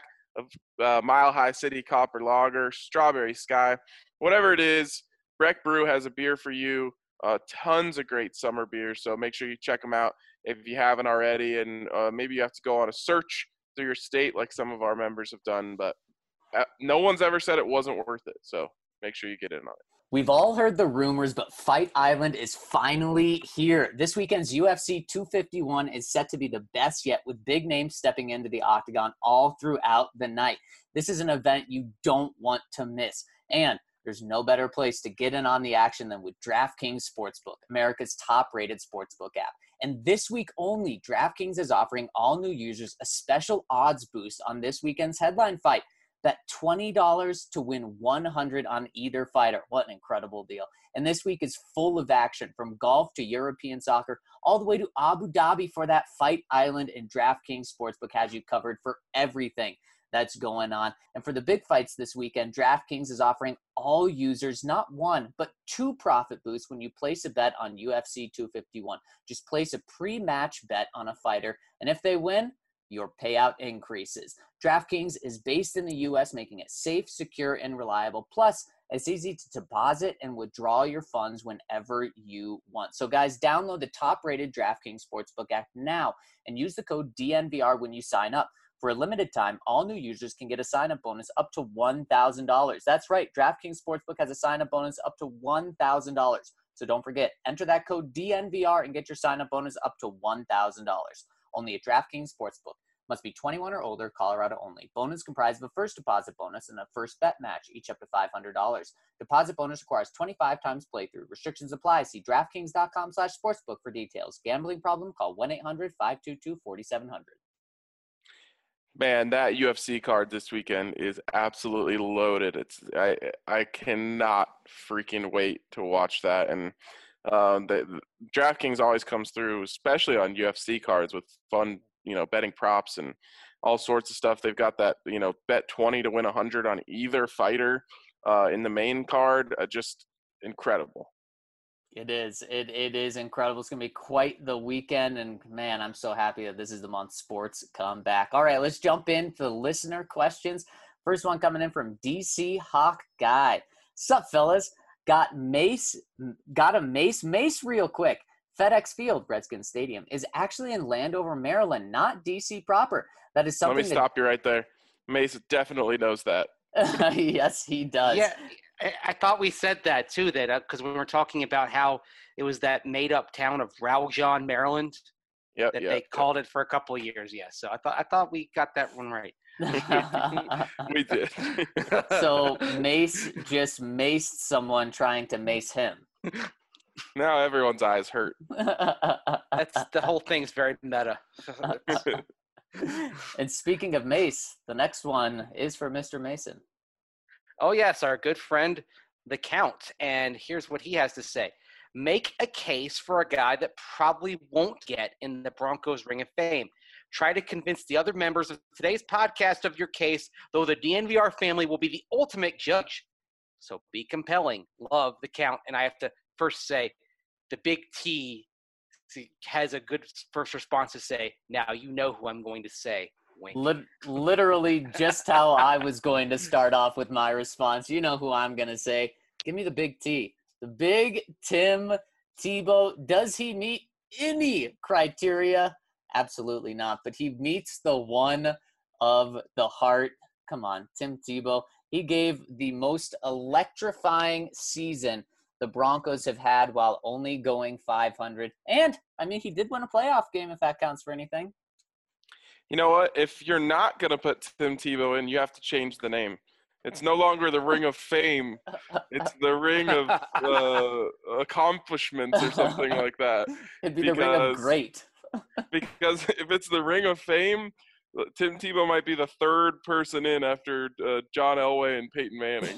of Mile High City Copper Lager, Strawberry Sky, whatever it is. Breck Brew has a beer for you. Tons of great summer beers, so make sure you check them out if you haven't already. And maybe you have to go on a search through your state like some of our members have done, but no one's ever said it wasn't worth it, so make sure you get in on it. We've all heard the rumors, but Fight Island is finally here. This weekend's UFC 251 is set to be the best yet, with big names stepping into the octagon all throughout the night. This is an event you don't want to miss. And there's no better place to get in on the action than with DraftKings Sportsbook, America's top-rated sportsbook app. And this week only, DraftKings is offering all new users a special odds boost on this weekend's headline fight. Bet $20 to win $100 on either fighter. What an incredible deal. And this week is full of action, from golf to European soccer, all the way to Abu Dhabi for that Fight Island, and DraftKings Sportsbook has you covered for everything that's going on. And for the big fights this weekend, DraftKings is offering all users not one, but 2 profit boosts when you place a bet on UFC 251. Just place a pre-match bet on a fighter, and if they win, your payout increases. DraftKings is based in the U.S., making it safe, secure, and reliable. Plus, it's easy to deposit and withdraw your funds whenever you want. So, guys, download the top-rated DraftKings Sportsbook app now and use the code DNVR when you sign up. For a limited time, all new users can get a sign-up bonus up to $1,000. That's right. DraftKings Sportsbook has a sign-up bonus up to $1,000. So don't forget, enter that code DNVR and get your sign-up bonus up to $1,000. Only at DraftKings Sportsbook. Must be 21 or older, Colorado only. Bonus comprised of a first deposit bonus and a first bet match, each up to $500. Deposit bonus requires 25 times playthrough. Restrictions apply. See DraftKings.com/sportsbook for details. Gambling problem? Call 1-800-522-4700. Man, that UFC card this weekend is absolutely loaded. I cannot freaking wait to watch that. And the DraftKings always comes through, especially on UFC cards, with fun, betting props and all sorts of stuff. They've got that, bet 20 to win 100 on either fighter in the main card. Just incredible. It is. It is incredible. It's going to be quite the weekend. And, man, I'm so happy that this is the month sports come back. All right, let's jump into the listener questions. First one coming in from DC Hawk Guy. Sup, fellas? Got a Mace real quick. FedEx Field, Redskins Stadium, is actually in Landover, Maryland, not DC proper. That is something. Let me stop you right there. Mace definitely knows that. Yes, he does. Yeah, I thought we said that too, that because we were talking about how it was that made-up town of Rowjon, Maryland, they called it for a couple of years. Yeah, so I thought we got that one right. We did. So Mace just maced someone trying to mace him. Now everyone's eyes hurt. That's the whole thing's very meta. And speaking of Mace, the next one is for Mr. Mason. Oh, yes, our good friend, the Count. And here's what he has to say. Make a case for a guy that probably won't get in the Broncos Ring of Fame. Try to convince the other members of today's podcast of your case, though the DNVR family will be the ultimate judge. So be compelling. Love, the Count. And I have to first say, the Big T has a good first response to say, now you know who I'm going to say. Wink. Literally just how I was going to start off with my response. You know who I'm going to say. Give me the Big T. The Big Tim Tebow. Does he meet any criteria? Absolutely not. But he meets the one of the heart. Come on, Tim Tebow. He gave the most electrifying season the Broncos have had while only going 500. And, I mean, he did win a playoff game if that counts for anything. You know what? If you're not going to put Tim Tebow in, you have to change the name. It's no longer the Ring of Fame. It's the Ring of Accomplishments or something like that. It'd be the Ring of Great. Because if it's the Ring of Fame, Tim Tebow might be the third person in after John Elway and Peyton Manning.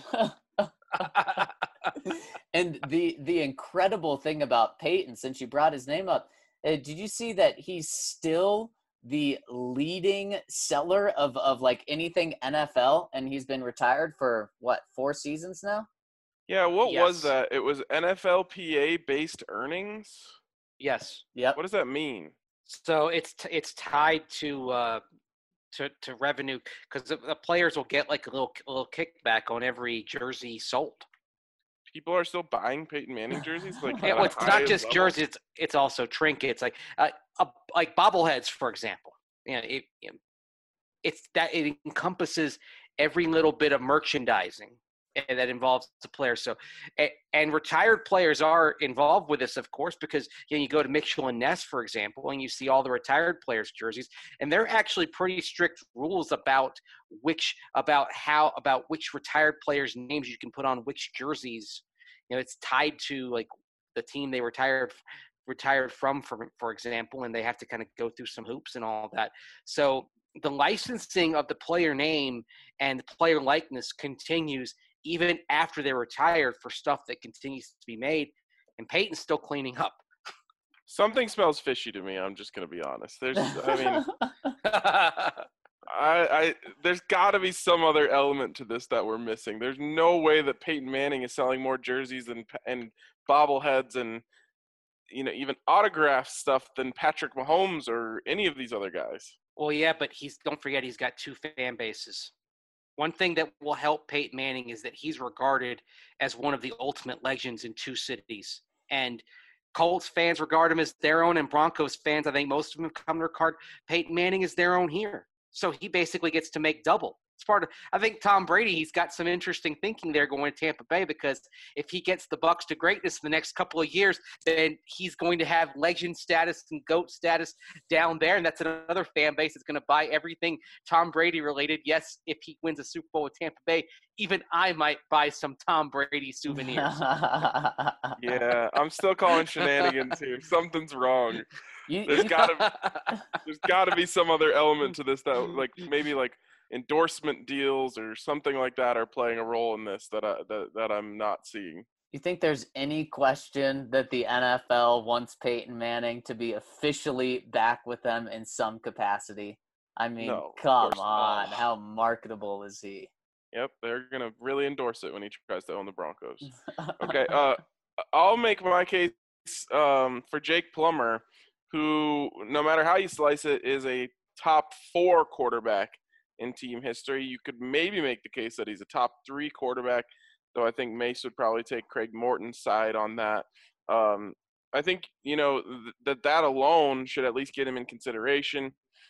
And the incredible thing about Peyton, since you brought his name up, did you see that he's still the leading seller of like anything NFL, and he's been retired for what, 4 seasons now? Yeah, what Yes. was that? It was NFLPA based earnings? Yes. Yep. What does that mean? So it's tied to revenue, because the players will get like a little kickback on every jersey sold. People are still buying Peyton Manning jerseys? Like, Yeah, at well, a it's not high just level? jerseys; it's also trinkets, like bobbleheads, for example. You know, it encompasses every little bit of merchandising that involves the player. So, and retired players are involved with this, of course, because you go to Mitchell and Ness, for example, and you see all the retired players' jerseys, and they're actually pretty strict rules about which retired players' names you can put on which jerseys. You know, it's tied to like the team they retired from, for example, and they have to kind of go through some hoops and all that. So the licensing of the player name and the player likeness continues even after they're retired for stuff that continues to be made, and Peyton's still cleaning up. Something smells fishy to me. I'm just going to be honest. There's got to be some other element to this that we're missing. There's no way that Peyton Manning is selling more jerseys and bobbleheads and even autograph stuff than Patrick Mahomes or any of these other guys. Well, yeah, but don't forget he's got 2 fan bases. One thing that will help Peyton Manning is that he's regarded as one of the ultimate legends in 2 cities. And Colts fans regard him as their own, and Broncos fans, I think most of them have come to regard Peyton Manning as their own here. So he basically gets to make double. It's part of, I think Tom Brady, he's got some interesting thinking there going to Tampa Bay, because if he gets the Bucs to greatness in the next couple of years, then he's going to have legend status and GOAT status down there. And that's another fan base that's going to buy everything Tom Brady related. Yes, if he wins a Super Bowl with Tampa Bay, even I might buy some Tom Brady souvenirs. Yeah, I'm still calling shenanigans here. Something's wrong. There's got to be some other element to this that, like, maybe like endorsement deals or something like that are playing a role in this that I'm not seeing. You think there's any question that the NFL wants Peyton Manning to be officially back with them in some capacity? I mean, No, come of course on. not. How marketable is he? Yep, they're going to really endorse it when he tries to own the Broncos. Okay, I'll make my case for Jake Plummer, who, no matter how you slice it, is a top 4 quarterback in team history. You could maybe make the case that he's a top 3 quarterback, though I think Mace would probably take Craig Morton's side on that. I think, that alone should at least get him in consideration.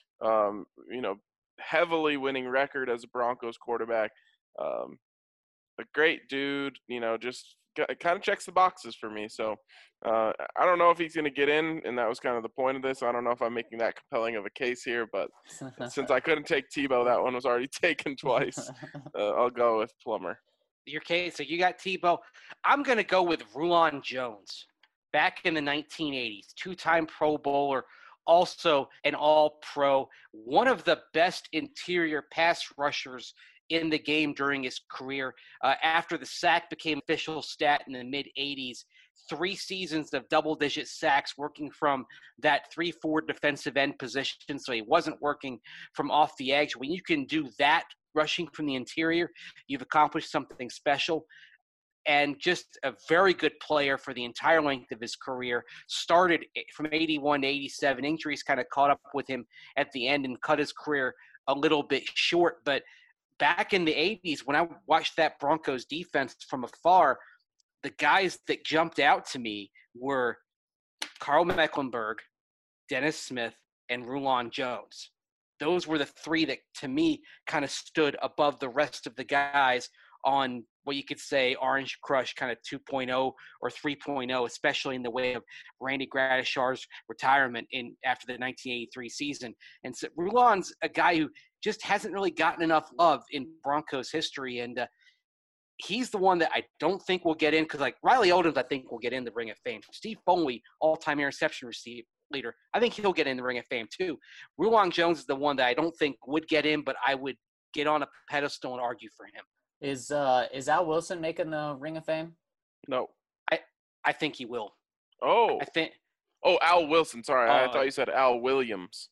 Heavily winning record as a Broncos quarterback. A great dude, just kind of checks the boxes for me. So I don't know if he's going to get in, and that was kind of the point of this. I don't know if I'm making that compelling of a case here, but since I couldn't take Tebow, that one was already taken twice. I'll go with Plummer. Your case, so you got Tebow. I'm going to go with Rulon Jones. Back in the 1980s, 2-time Pro Bowler, also an All-Pro, one of the best interior pass rushers in the game during his career. After the sack became official stat in the mid-'80s, 3 seasons of double-digit sacks, working from that 3-4 defensive end position, so he wasn't working from off the edge. When you can do that, rushing from the interior, you've accomplished something special. And just a very good player for the entire length of his career. Started from 81 to 87. Injuries kind of caught up with him at the end and cut his career a little bit short. But back in the 80s, when I watched that Broncos defense from afar, the guys that jumped out to me were Carl Mecklenburg, Dennis Smith, and Rulon Jones. Those were the 3 that, to me, kind of stood above the rest of the guys on what you could say Orange Crush kind of 2.0 or 3.0, especially in the way of Randy Gradishar's retirement after the 1983 season. And so Rulon's a guy who just hasn't really gotten enough love in Broncos history, and he's the one that I don't think will get in, because like Riley Odoms, I think will get in the Ring of Fame. Steve Foley, all-time interception leader, I think he'll get in the Ring of Fame too. Rulon Jones is the one that I don't think would get in, but I would get on a pedestal and argue for him. Is Al Wilson making the Ring of Fame? No. I think he will. Oh. I think. Oh, Al Wilson. Sorry, I thought you said Al Williams.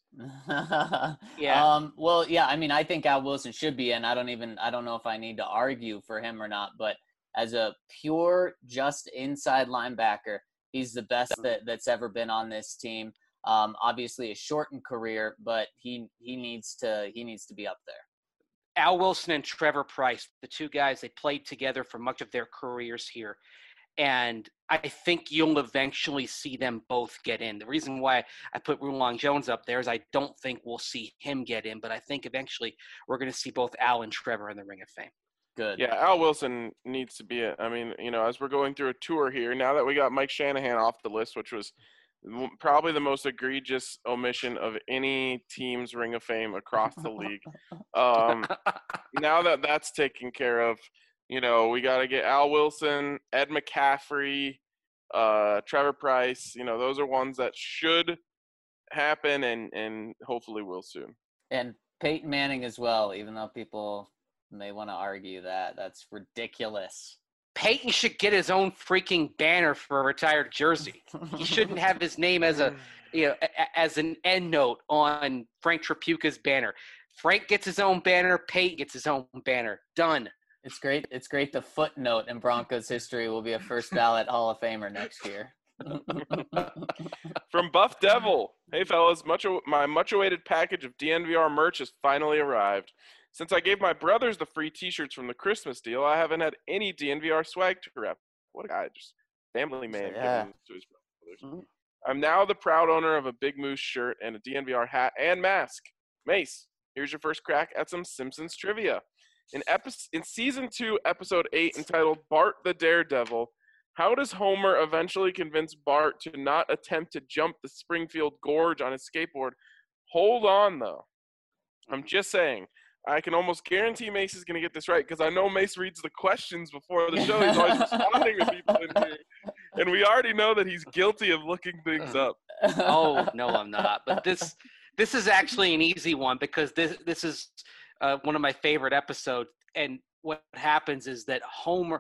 Yeah. Well, yeah. I mean, I think Al Wilson should be in. I don't know if I need to argue for him or not. But as a pure, just inside linebacker, he's the best that's ever been on this team. Obviously, a shortened career, but he needs to be up there. Al Wilson and Trevor Pryce, the two guys, they played together for much of their careers here. And I think you'll eventually see them both get in. The reason why I put Rulon Jones up there is I don't think we'll see him get in, but I think eventually we're going to see both Al and Trevor in the Ring of Fame. Good. Yeah, Al Wilson needs to be it. I mean, as we're going through a tour here, now that we got Mike Shanahan off the list, which was probably the most egregious omission of any team's Ring of Fame across the league. Now that that's taken care of, we got to get Al Wilson, Ed McCaffrey, Trevor Pryce. Those are ones that should happen and hopefully will soon. And Peyton Manning as well, even though people may want to argue that. That's ridiculous. Peyton should get his own freaking banner for a retired jersey. He shouldn't have his name as as an end note on Frank Tripucka's banner. Frank gets his own banner. Peyton gets his own banner. Done. It's great. It's great. The footnote in Broncos history will be a first ballot Hall of Famer next year. From Buff Devil. Hey, fellas. My much-awaited package of DNVR merch has finally arrived. Since I gave my brothers the free T-shirts from the Christmas deal, I haven't had any DNVR swag to rep. What a guy. Just family man giving to his brothers. Mm-hmm. I'm now the proud owner of a Big Moose shirt and a DNVR hat and mask. Mace, here's your first crack at some Simpsons trivia. In Season 2, Episode 8, entitled Bart the Daredevil, how does Homer eventually convince Bart to not attempt to jump the Springfield Gorge on his skateboard? Hold on, though. I'm just saying. I can almost guarantee Mace is going to get this right because I know Mace reads the questions before the show. He's always responding to people in here. And we already know that he's guilty of looking things up. Oh, no, I'm not. But this is actually an easy one because this is one of my favorite episodes. And what happens is that Homer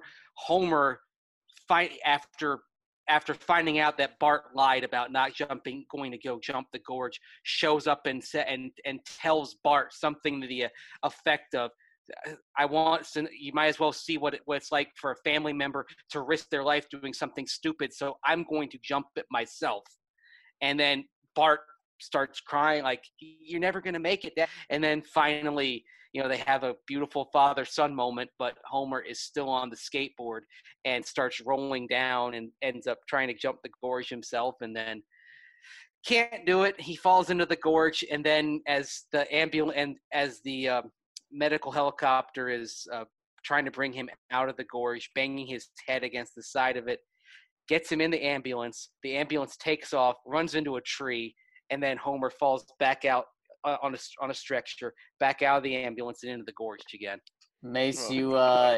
after finding out that Bart lied about not going to go jump the gorge, shows up and tells Bart something to the effect of, you might as well see what it's like for a family member to risk their life doing something stupid, so I'm going to jump it myself. And then Bart starts crying like, you're never going to make it. And then finally, they have a beautiful father-son moment, but Homer is still on the skateboard and starts rolling down and ends up trying to jump the gorge himself and then can't do it. He falls into the gorge, and then as the medical helicopter is trying to bring him out of the gorge, banging his head against the side of it, gets him in the ambulance. The ambulance takes off, runs into a tree, and then Homer falls back out on a stretcher, back out of the ambulance and into the gorge again. Mace, you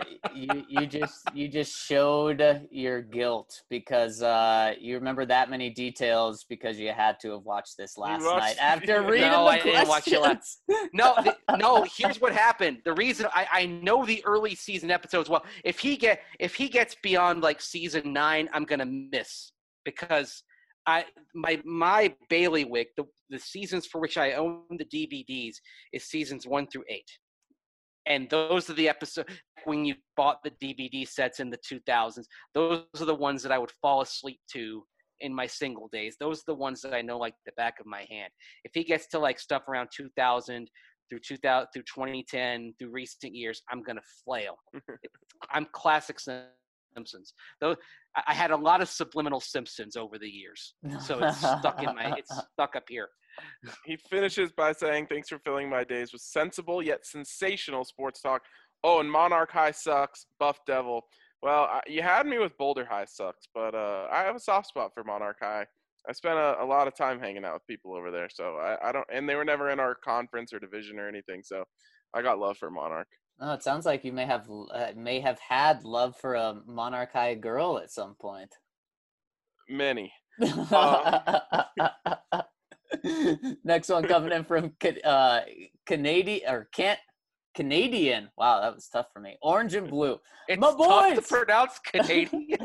just showed your guilt because you remember that many details because you had to have watched this last night after reading the questions. Didn't watch it last. No. Here's what happened. The reason I know the early season episodes well. If he gets beyond like season 9, I'm gonna miss because my bailiwick, the seasons for which I own the DVDs is seasons 1 through 8. And those are the episodes when you bought the DVD sets in the 2000s. Those are the ones that I would fall asleep to in my single days. Those are the ones that I know like the back of my hand. If he gets to like stuff around 2000 through 2010 through recent years, I'm going to flail. I'm classic Simpsons. Though I had a lot of subliminal Simpsons over the years. So it's stuck up here. He finishes by saying, thanks for filling my days with sensible yet sensational sports talk. Oh, and Monarch High sucks. Buff Devil. Well, you had me with Boulder High sucks, but I have a soft spot for Monarch High. I spent a lot of time hanging out with people over there, so I don't. And they were never in our conference or division or anything, so I got love for Monarch. Oh, it sounds like you may have had love for a Monarch High girl at some point. Many. Next one coming in from Canadian. Wow, that was tough for me. Orange and blue. It's My tough to boys! pronounce Canadian.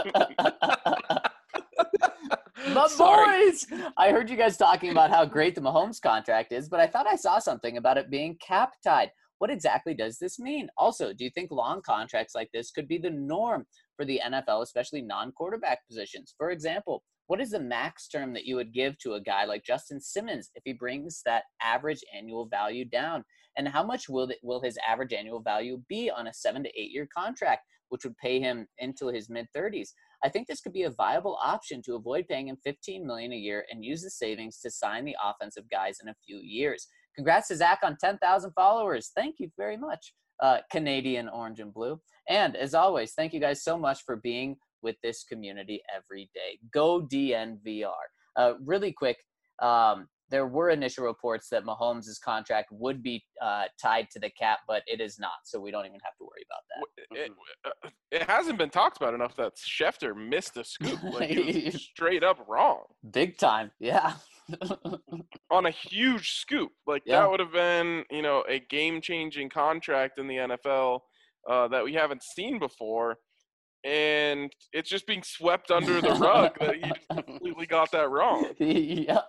My Sorry. boys! I heard you guys talking about how great the Mahomes contract is, but I thought I saw something about it being cap tied. What exactly does this mean? Also, do you think long contracts like this could be the norm for the NFL, especially non-quarterback positions? For example, what is the max term that you would give to a guy like Justin Simmons if he brings that average annual value down? And how much will his average annual value be on a 7 to 8 year contract, which would pay him into his mid-30s? I think this could be a viable option to avoid paying him $15 million a year and use the savings to sign the offensive guys in a few years. Congrats to Zach on 10,000 followers. Thank you very much, Canadian Orange and Blue. And as always, thank you guys so much for being with this community every day. Go DNVR. Really quick, there were initial reports that Mahomes' contract would be tied to the cap, but it is not, so we don't even have to worry about that. It hasn't been talked about enough that Schefter missed a scoop. Like, he was straight up wrong. Big time, yeah. On a huge scoop. Like, that would have been, a game-changing contract in the NFL that we haven't seen before. And it's just being swept under the rug that he completely got that wrong. Yeah.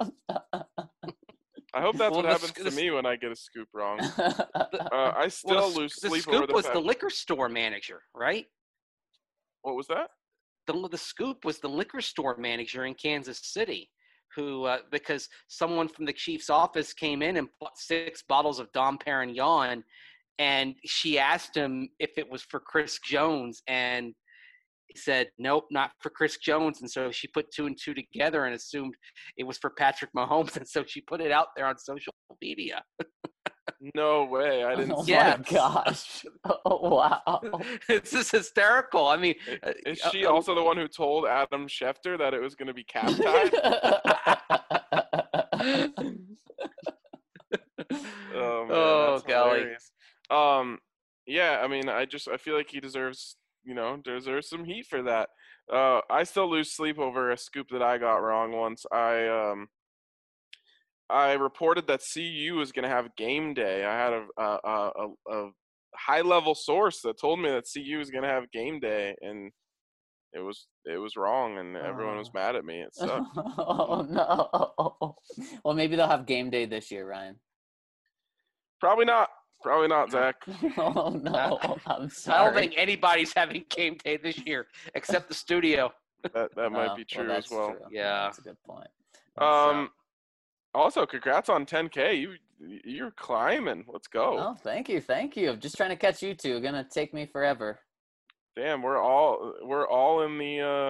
I hope that's what happens to me when I get a scoop wrong. I still lose sleep over the Scoop was the liquor store manager, right? What was that? The Scoop was the liquor store manager in Kansas City, who because someone from the Chiefs office came in and bought 6 bottles of Dom Perignon, and she asked him if it was for Chris Jones, and he said, nope, not for Chris Jones. And so she put 2 and 2 together and assumed it was for Patrick Mahomes. And so she put it out there on social media. No way. I didn't see my gosh. Oh, wow. It's just hysterical. I mean, is she also the one who told Adam Schefter that it was going to be cap tied? Oh, man, that's golly. Hilarious. Yeah, I mean, I feel like he deserves some heat for that. I still lose sleep over a scoop that I got wrong once. I reported that CU was going to have game day. I had a high-level source that told me that CU was going to have game day, and it was wrong, and everyone was mad at me. It sucked. Oh, no. Well, maybe they'll have game day this year, Ryan. Probably not, Zach. Oh, no. I'm sorry. I don't think anybody's having game day this year except the studio. That might be true as well. True. Yeah. That's a good point. Also, congrats on 10K. You're climbing. Let's go. Oh, thank you. I'm just trying to catch you two. Gonna take me forever. Damn, we're all in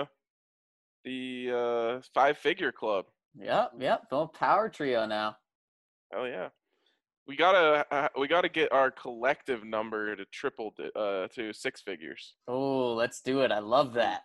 the 5-figure club. Yep. Little power trio now. Hell yeah. We gotta get our collective number to triple to 6 figures. Oh, let's do it. I love that.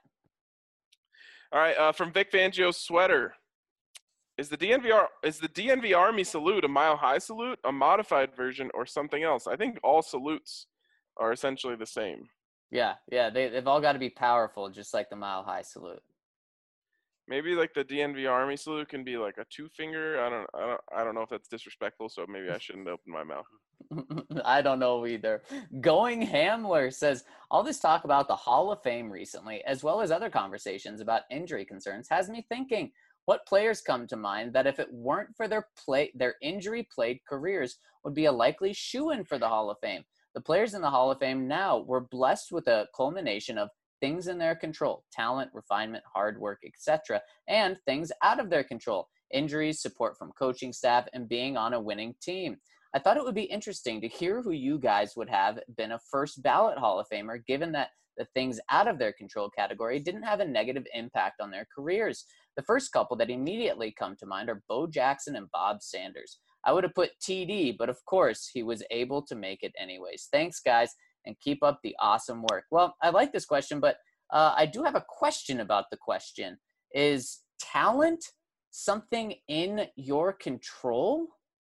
All right, from Vic Fangio's sweater. Is the DNV Army salute a mile high salute, a modified version, or something else? I think all salutes are essentially the same. Yeah. They've all got to be powerful, just like the mile high salute. Maybe like the DNV Army salute can be like a 2-finger. I don't know if that's disrespectful, so maybe I shouldn't open my mouth. I don't know either. Going Hamler says, all this talk about the Hall of Fame recently, as well as other conversations about injury concerns, has me thinking, what players come to mind that if it weren't for their injury-plagued careers would be a likely shoo-in for the Hall of Fame? The players in the Hall of Fame now were blessed with a culmination of things in their control, talent, refinement, hard work, etc., and things out of their control, injuries, support from coaching staff, and being on a winning team. I thought it would be interesting to hear who you guys would have been a first ballot Hall of Famer, given that the things out of their control category didn't have a negative impact on their careers. The first couple that immediately come to mind are Bo Jackson and Bob Sanders. I would have put TD, but of course he was able to make it anyways. Thanks, guys. and keep up the awesome work. Well, I like this question, but I do have a question about the question. Is talent something in your control?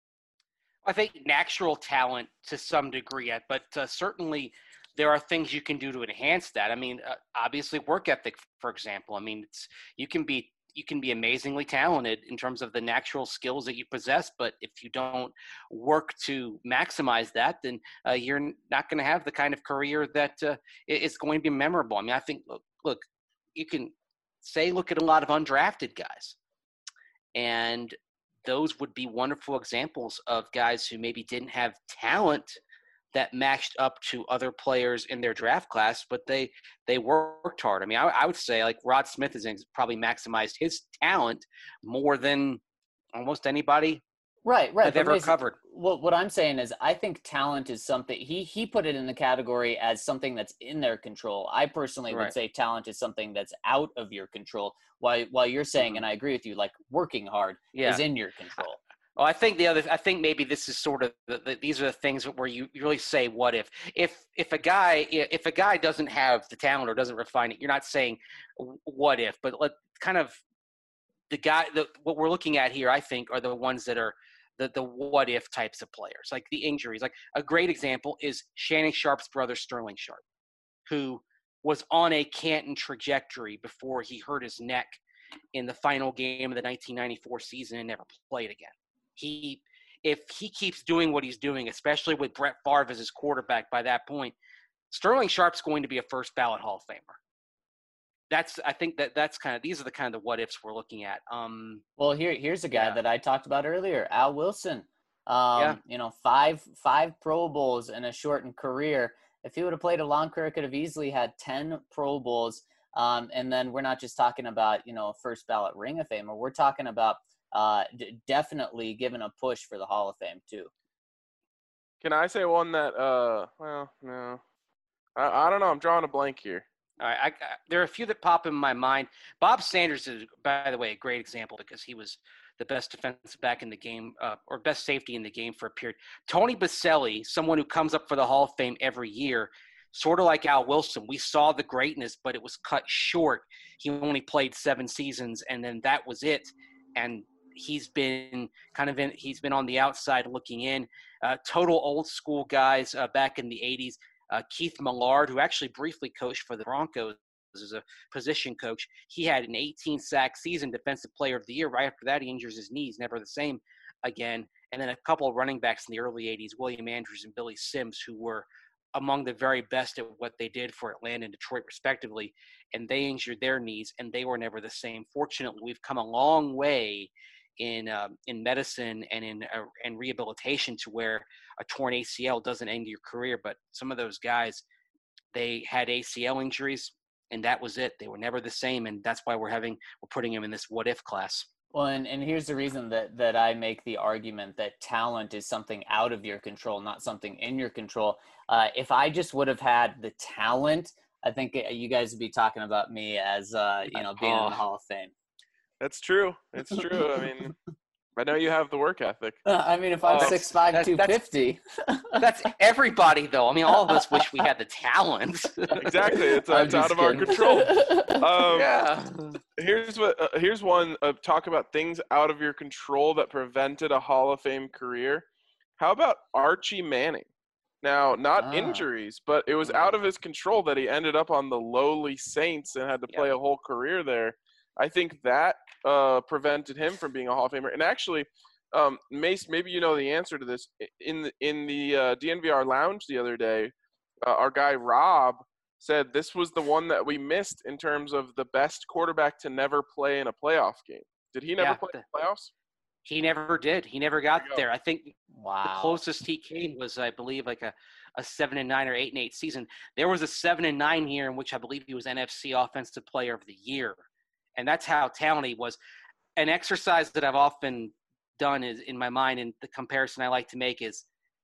I think natural talent to some degree, but certainly there are things you can do to enhance that. I mean, obviously work ethic, for example. I mean, you can be amazingly talented in terms of the natural skills that you possess, but if you don't work to maximize that, then you're not going to have the kind of career that is going to be memorable. I mean, I think look, you can look at a lot of undrafted guys, and those would be wonderful examples of guys who maybe didn't have talent that matched up to other players in their draft class, but they worked hard. I mean, I would say like Rod Smith has probably maximized his talent more than almost anybody Right. I've ever covered. What I'm saying is I think talent is something he put it in the category as something that's in their control. I personally would Right. say talent is something that's out of your control. While you're saying, and I agree with you, like working hard Yeah. is in your control. Well, I think maybe this is sort of these are the things where you really say, what if a guy doesn't have the talent or doesn't refine it, you're not saying what if, but kind of what we're looking at here, I think, are the ones that are the what if types of players, like the injuries. Like a great example is Shannon Sharp's brother, Sterling Sharp, who was on a Canton trajectory before he hurt his neck in the final game of the 1994 season and never played again. If he keeps doing what he's doing, especially with Brett Favre as his quarterback by that point, Sterling Sharp's going to be a first ballot Hall of Famer. I think that's kind of, these are the kind of what ifs we're looking at. Well, here's a guy that I talked about earlier, Al Wilson. Yeah. You know, five Pro Bowls in a shortened career. If he would have played a long career, could have easily had 10 Pro Bowls. And then we're not just talking about, you know, first ballot Ring of Famer. We're talking about definitely giving a push for the Hall of Fame too. Can I say one that? Well, no, I don't know. I'm drawing a blank here. All right, there are a few that pop in my mind. Bob Sanders is, by the way, a great example because he was the best defensive back in the game, or best safety in the game for a period. Tony Baselli, someone who comes up for the Hall of Fame every year, sort of like Al Wilson. We saw the greatness, but it was cut short. He only played 7 seasons, and then that was it. And he's been on the outside looking in. Total old school guys back in the 80s. Keith Millard, who actually briefly coached for the Broncos as a position coach, he had an 18-sack season, Defensive Player of the Year. Right after that, he injures his knees, never the same again. And then a couple of running backs in the early 80s, William Andrews and Billy Sims, who were among the very best at what they did for Atlanta and Detroit, respectively. And they injured their knees, and they were never the same. Fortunately, we've come a long way in medicine and in rehabilitation to where a torn ACL doesn't end your career. But some of those guys, they had ACL injuries, and that was it. They were never the same, and that's why we're putting them in this what if class. Well, and here's the reason that I make the argument that talent is something out of your control, not something in your control. If I just would have had the talent, I think you guys would be talking about me as being in the Hall of Fame. That's true. It's true. I mean, I know you have the work ethic. I mean, if I'm 6'5", 250. That's everybody, though. I mean, all of us wish we had the talent. Exactly. It's out of our control. Yeah. Here's one talk about things out of your control that prevented a Hall of Fame career. How about Archie Manning? Now, not injuries, but it was out of his control that he ended up on the lowly Saints and had to play a whole career there. I think that prevented him from being a Hall of Famer. And actually, Mace, maybe you know the answer to this. In the DNVR lounge the other day, our guy Rob said this was the one that we missed in terms of the best quarterback to never play in a playoff game. Did he never play in the playoffs? He never did. He never got there. I think the closest he came was, I believe, like a 7-9 or 8-8 season. There was a 7-9 year in which I believe he was NFC Offensive Player of the Year. And that's how talented he was. An exercise that I've often done is in my mind, and the comparison I like to make is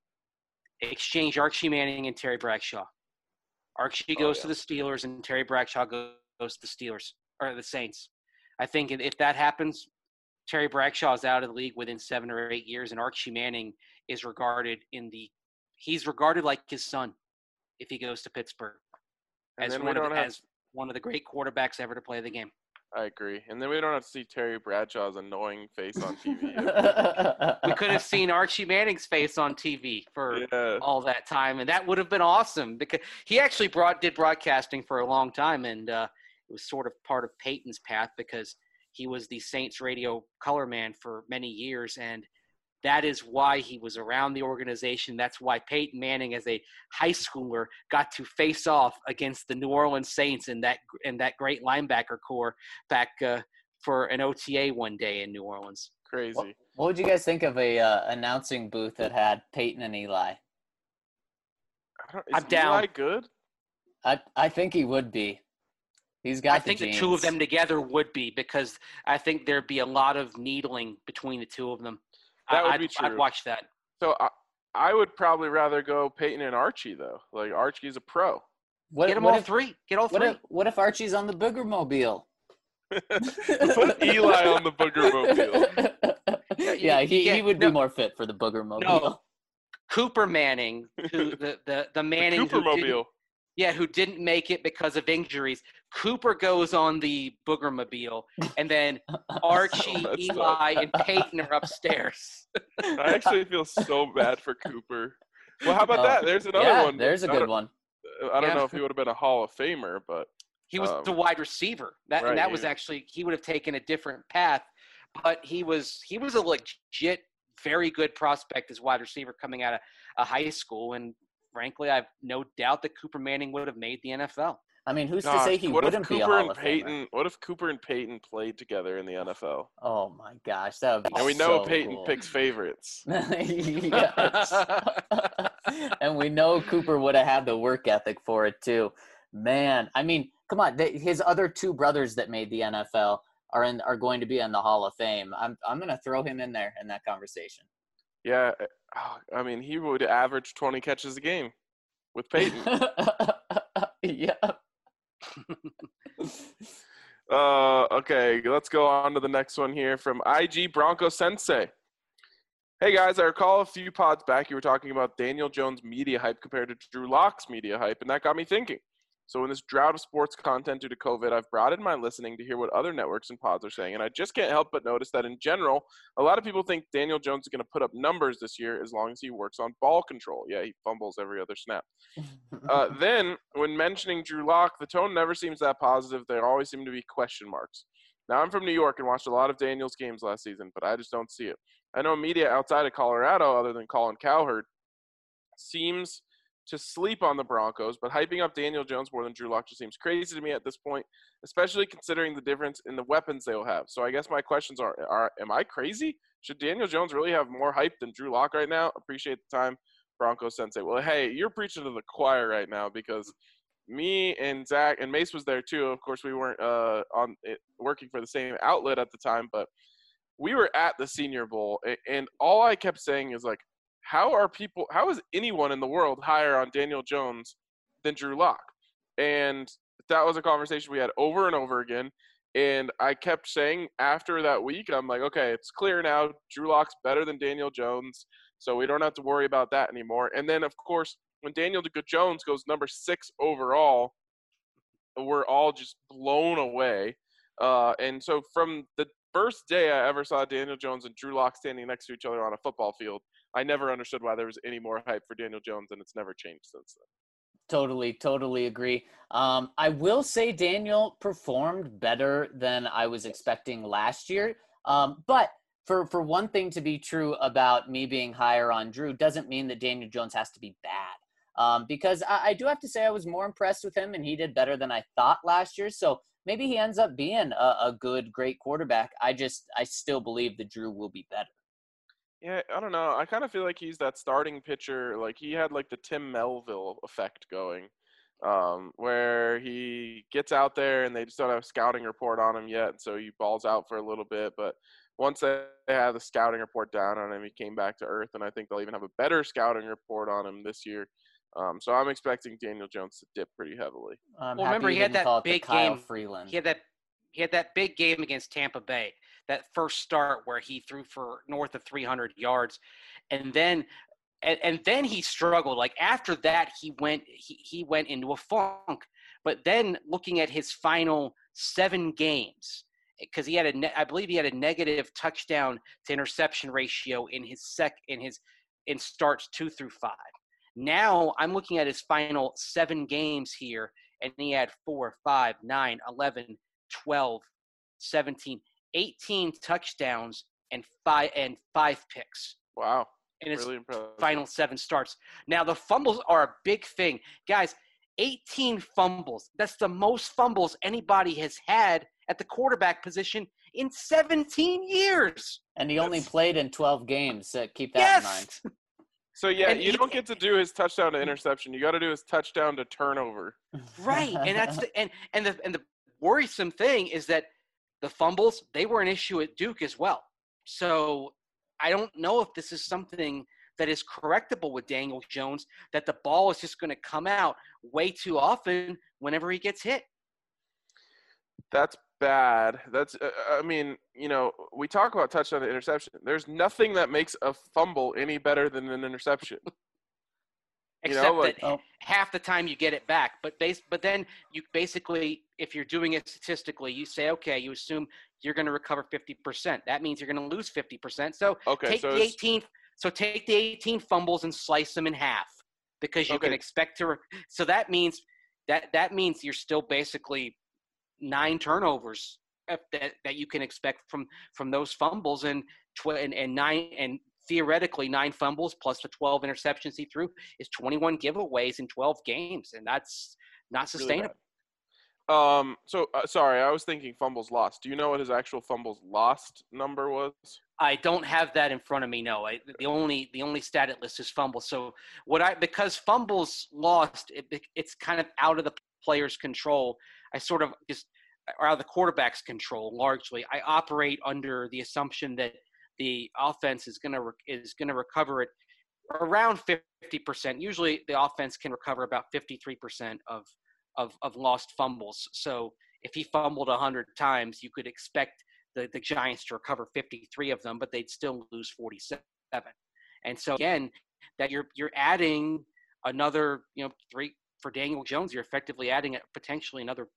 exchange Archie Manning and Terry Bradshaw. Archie goes to the Steelers, and Terry Bradshaw goes to the Steelers or the Saints. I think if that happens, Terry Bradshaw is out of the league within 7 or 8 years, and Archie Manning is regarded he's regarded like his son. if he goes to Pittsburgh And as then we don't have. as one of the great quarterbacks ever to play the game. I agree. And then we don't have to see Terry Bradshaw's annoying face on TV. We could have seen Archie Manning's face on TV for Yeah. all that time, and that would have been awesome because he actually did broadcasting for a long time, and it was sort of part of Peyton's path because he was the Saints radio color man for many years, and that is why he was around the organization. That's why Peyton Manning, as a high schooler, got to face off against the New Orleans Saints in that great linebacker core back for an OTA one day in New Orleans. Crazy. What would you guys think of a announcing booth that had Peyton and Eli? Is Eli good? I think he would be. He's got. I think the two of them together would be, because I think there'd be a lot of needling between the two of them. That would be true. I'd watch that. So I would probably rather go Peyton and Archie, though. Like, Archie's a pro. Get all three. What if Archie's on the Booger Mobile? Put Eli on the Booger Mobile. Yeah, he would be more fit for the Booger Mobile. No, Cooper Manning, who the Manning Cooper Mobile. who didn't make it because of injuries. Cooper goes on the Booger Mobile, and then Archie, Eli, and Peyton are upstairs. I actually feel so bad for Cooper. Well, how about that? There's another one. There's a good one. I don't know if he would have been a Hall of Famer, but he was the wide receiver. Was actually, he would have taken a different path, but he was a legit, very good prospect as wide receiver coming out of a high school, and frankly, I've no doubt that Cooper Manning would have made the NFL. I mean, who's to say he wouldn't be a Hall of Famer? What if Cooper and Peyton played together in the NFL? Oh my gosh, that would be. And we know so Peyton cool. picks favorites. Yes. And we know Cooper would have had the work ethic for it too. Man, I mean, come on, his other two brothers that made the NFL are going to be in the Hall of Fame. I'm going to throw him in there in that conversation. Yeah, I mean, he would average 20 catches a game with Peyton. Yeah. Okay, let's go on to the next one here from IG Bronco Sensei. Hey guys, I recall a few pods back you were talking about Daniel Jones' media hype compared to Drew Lock's media hype, and that got me thinking. So in this drought of sports content due to COVID, I've broadened my listening to hear what other networks and pods are saying, and I just can't help but notice that in general, a lot of people think Daniel Jones is going to put up numbers this year as long as he works on ball control. Yeah, he fumbles every other snap. Then, when mentioning Drew Lock, the tone never seems that positive. There always seem to be question marks. Now, I'm from New York and watched a lot of Daniel's games last season, but I just don't see it. I know media outside of Colorado, other than Colin Cowherd, seems to sleep on the Broncos, but hyping up Daniel Jones more than Drew Lock just seems crazy to me at this point, especially considering the difference in the weapons they will have. So I guess my questions are am I crazy? Should Daniel Jones really have more hype than Drew Lock right now? Appreciate the time, Bronco Sensei. Well, hey, you're preaching to the choir right now, because me and Zach and Mace was there too. Of course, we weren't working for the same outlet at the time, but we were at the Senior Bowl, and all I kept saying is, like, how is anyone in the world higher on Daniel Jones than Drew Lock? And that was a conversation we had over and over again. And I kept saying after that week, I'm like, okay, it's clear now. Drew Lock's better than Daniel Jones, so we don't have to worry about that anymore. And then, of course, when Daniel Jones goes number 6 overall, we're all just blown away. And so from the first day I ever saw Daniel Jones and Drew Lock standing next to each other on a football field, I never understood why there was any more hype for Daniel Jones, and it's never changed since then. Totally agree. I will say Daniel performed better than I was expecting last year. But for one thing to be true about me being higher on Drew doesn't mean that Daniel Jones has to be bad. Because I do have to say I was more impressed with him, and he did better than I thought last year. So maybe he ends up being a great quarterback. I still believe that Drew will be better. Yeah, I don't know. I kind of feel like he's that starting pitcher. Like, he had like the Tim Melville effect going, where he gets out there and they just don't have a scouting report on him yet, so he balls out for a little bit. But once they have the scouting report down on him, he came back to earth, and I think they'll even have a better scouting report on him this year. So I'm expecting Daniel Jones to dip pretty heavily. Remember, he had that big game. Freeland. He had that big game against Tampa Bay, that first start where he threw for north of 300 yards. And then and then he struggled. Like after that, he went into a funk. But then looking at his final 7 games, because I believe he had a negative touchdown to interception ratio in starts 2 through 5. Now I'm looking at his final 7 games here, and he had 4, 5, 9, 11, 12, 17, 18 touchdowns and 5 picks. Wow. In his Really impressive. final 7 starts. Now the fumbles are a big thing. Guys, 18 fumbles. That's the most fumbles anybody has had at the quarterback position in 17 years. And he only played in 12 games. So keep that in mind. So, yeah, you don't get to do his touchdown to interception. You got to do his touchdown to turnover. Right. And that's the worrisome thing is that the fumbles, they were an issue at Duke as well. So I don't know if this is something that is correctable with Daniel Jones, that the ball is just going to come out way too often whenever he gets hit. That's bad. I mean, we talk about touchdown to interception. There's nothing that makes a fumble any better than an interception. Except that half the time you get it back. But then you basically, if you're doing it statistically, you say, okay, you assume you're going to recover 50%. That means you're going to lose 50%. So take the 18 fumbles and slice them in half, because you can expect to. So that means you're still basically 9 turnovers that you can expect from those fumbles, and 9 and theoretically 9 fumbles plus the 12 interceptions he threw is 21 giveaways in 12 games, and that's not sustainable. Really sorry, I was thinking fumbles lost. Do you know what his actual fumbles lost number was? I don't have that in front of me. No, the only stat it lists is fumbles. So because fumbles lost, it's kind of out of the player's control. I sort of just out of the quarterback's control largely. I operate under the assumption that the offense is going to recover it around 50%. Usually, the offense can recover about 53% of lost fumbles. So if he fumbled 100 times, you could expect the Giants to recover 53 of them, but they'd still lose 47. And so again, that you're adding another 3 for Daniel Jones. You're effectively adding potentially another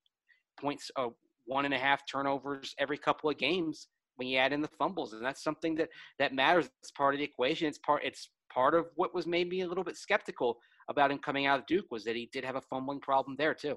1.5 turnovers every couple of games when you add in the fumbles, and that's something that matters. It's part of the equation. It's part of what was made me a little bit skeptical about him coming out of Duke, was that he did have a fumbling problem there too.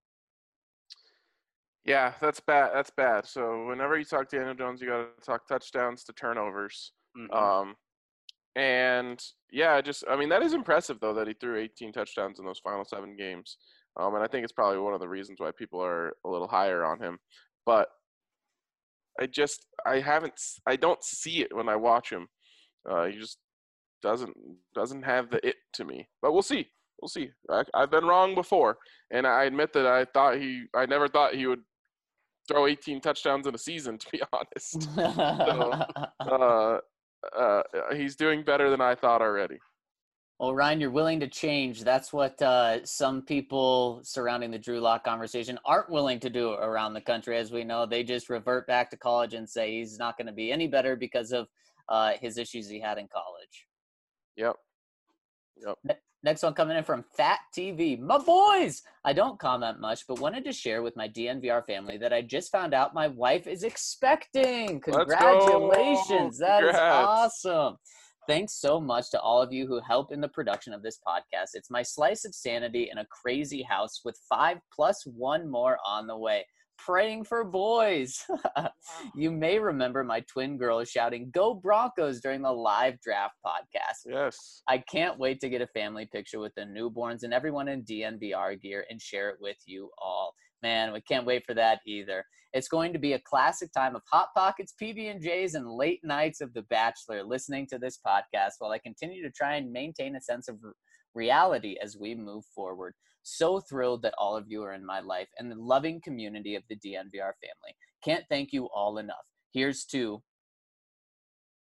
Yeah, that's bad. That's bad. So whenever you talk to Daniel Jones, you got to talk touchdowns to turnovers. Mm-hmm. And yeah, that is impressive though, that he threw 18 touchdowns in those final 7 games. And I think it's probably one of the reasons why people are a little higher on him. But I don't see it when I watch him. He just doesn't have the it to me. But we'll see. We'll see. I've been wrong before, and I admit that I never thought he would throw 18 touchdowns in a season, to be honest. So, he's doing better than I thought already. Well, Ryan, you're willing to change. That's what some people surrounding the Drew Lock conversation aren't willing to do around the country. As we know, they just revert back to college and say he's not going to be any better because of his issues he had in college. Yep. Next one coming in from Fat TV. My boys! I don't comment much, but wanted to share with my DNVR family that I just found out my wife is expecting. Congratulations. That is awesome. Thanks so much to all of you who help in the production of this podcast. It's my slice of sanity in a crazy house with 5 plus 1 more on the way. Praying for boys. You may remember my twin girls shouting, "Go Broncos" during the live draft podcast. Yes. I can't wait to get a family picture with the newborns and everyone in DNVR gear and share it with you all. Man, we can't wait for that either. It's going to be a classic time of Hot Pockets, PB&Js, and late nights of The Bachelor, listening to this podcast while I continue to try and maintain a sense of reality as we move forward. So thrilled that all of you are in my life and the loving community of the DNVR family. Can't thank you all enough. Here's to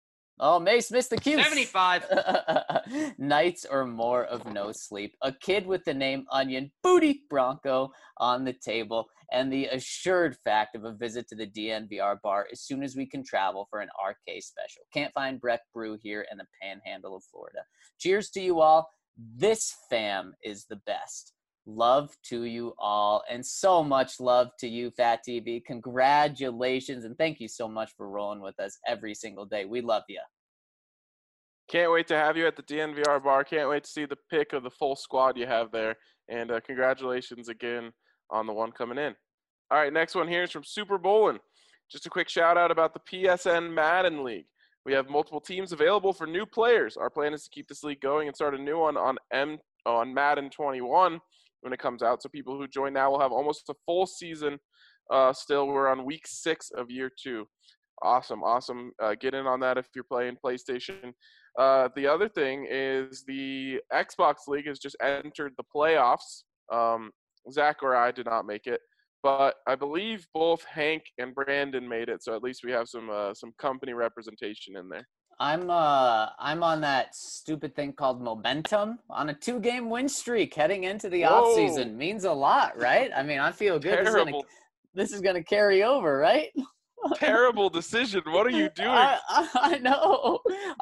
Oh, Mace missed the cue. 75. Nights or more of no sleep. A kid with the name Onion, Booty Bronco on the table, and the assured fact of a visit to the DNVR bar as soon as we can travel for an RK special. Can't find Breck Brew here in the panhandle of Florida. Cheers to you all. This fam is the best. Love to you all, and so much love to you, Fat TV. Congratulations, and thank you so much for rolling with us every single day. We love you. Can't wait to have you at the DNVR bar. Can't wait to see the pic of the full squad you have there. And congratulations again on the one coming in. All right, next one here is from Super Bowlin'. Just a quick shout out about the PSN Madden League. We have multiple teams available for new players. Our plan is to keep this league going and start a new one on Madden 21 when it comes out. So people who join now will have almost a full season. Still, we're on week 6 of year 2. Awesome. Get in on that if you're playing PlayStation. The other thing is the Xbox League has just entered the playoffs. Zach or I did not make it, but I believe both Hank and Brandon made it. So at least we have some company representation in there. I'm on that stupid thing called momentum on a 2-game win streak heading into the off season. Means a lot, right? I mean, I feel good. This is gonna carry over, right? Terrible decision. What are you doing? I know.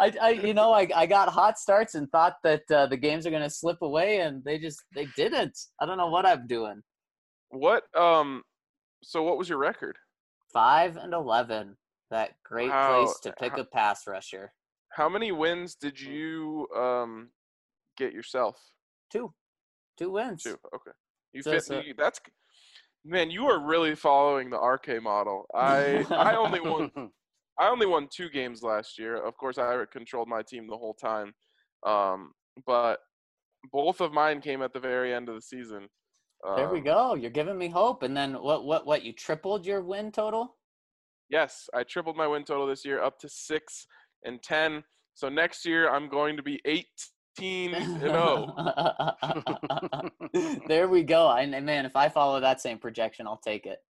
I got hot starts and thought that the games are gonna slip away, and they didn't. I don't know what I'm doing. What So what was your record? 5-11. That great place to pick a pass rusher. How many wins did you get yourself? 2 wins. 2. Okay. That's man. You are really following the RK model. I only won 2 games last year. Of course, I controlled my team the whole time. But both of mine came at the very end of the season. There we go. You're giving me hope. And then what? You tripled your win total? Yes, I tripled my win total this year up to 6-10. So next year I'm going to be 18-0. There we go. And man, if I follow that same projection, I'll take it.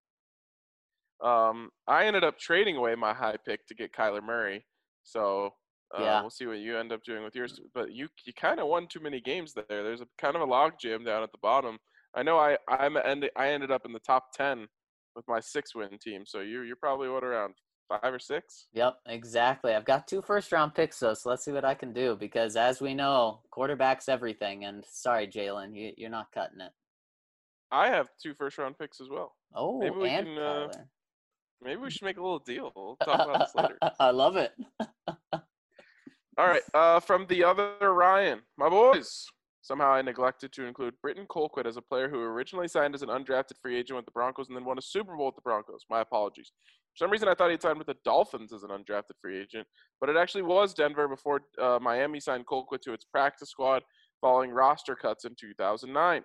I ended up trading away my high pick to get Kyler Murray. So yeah. We'll see what you end up doing with yours. But you kind of won too many games there. There's a kind of a log jam down at the bottom. I know I ended up in the top 10 with my 6-win team. So you're probably around 5 or 6? Yep, exactly. I've got 2 first-round picks, though, so let's see what I can do. Because as we know, quarterback's everything. And sorry, Jalen, you're not cutting it. I have 2 first-round picks as well. Oh, maybe we can. Maybe we should make a little deal. We'll talk about this later. I love it. All right, from the other Ryan, my boys. Somehow I neglected to include Britton Colquitt as a player who originally signed as an undrafted free agent with the Broncos and then won a Super Bowl with the Broncos. My apologies. For some reason, I thought he'd signed with the Dolphins as an undrafted free agent, but it actually was Denver before Miami signed Colquitt to its practice squad following roster cuts in 2009.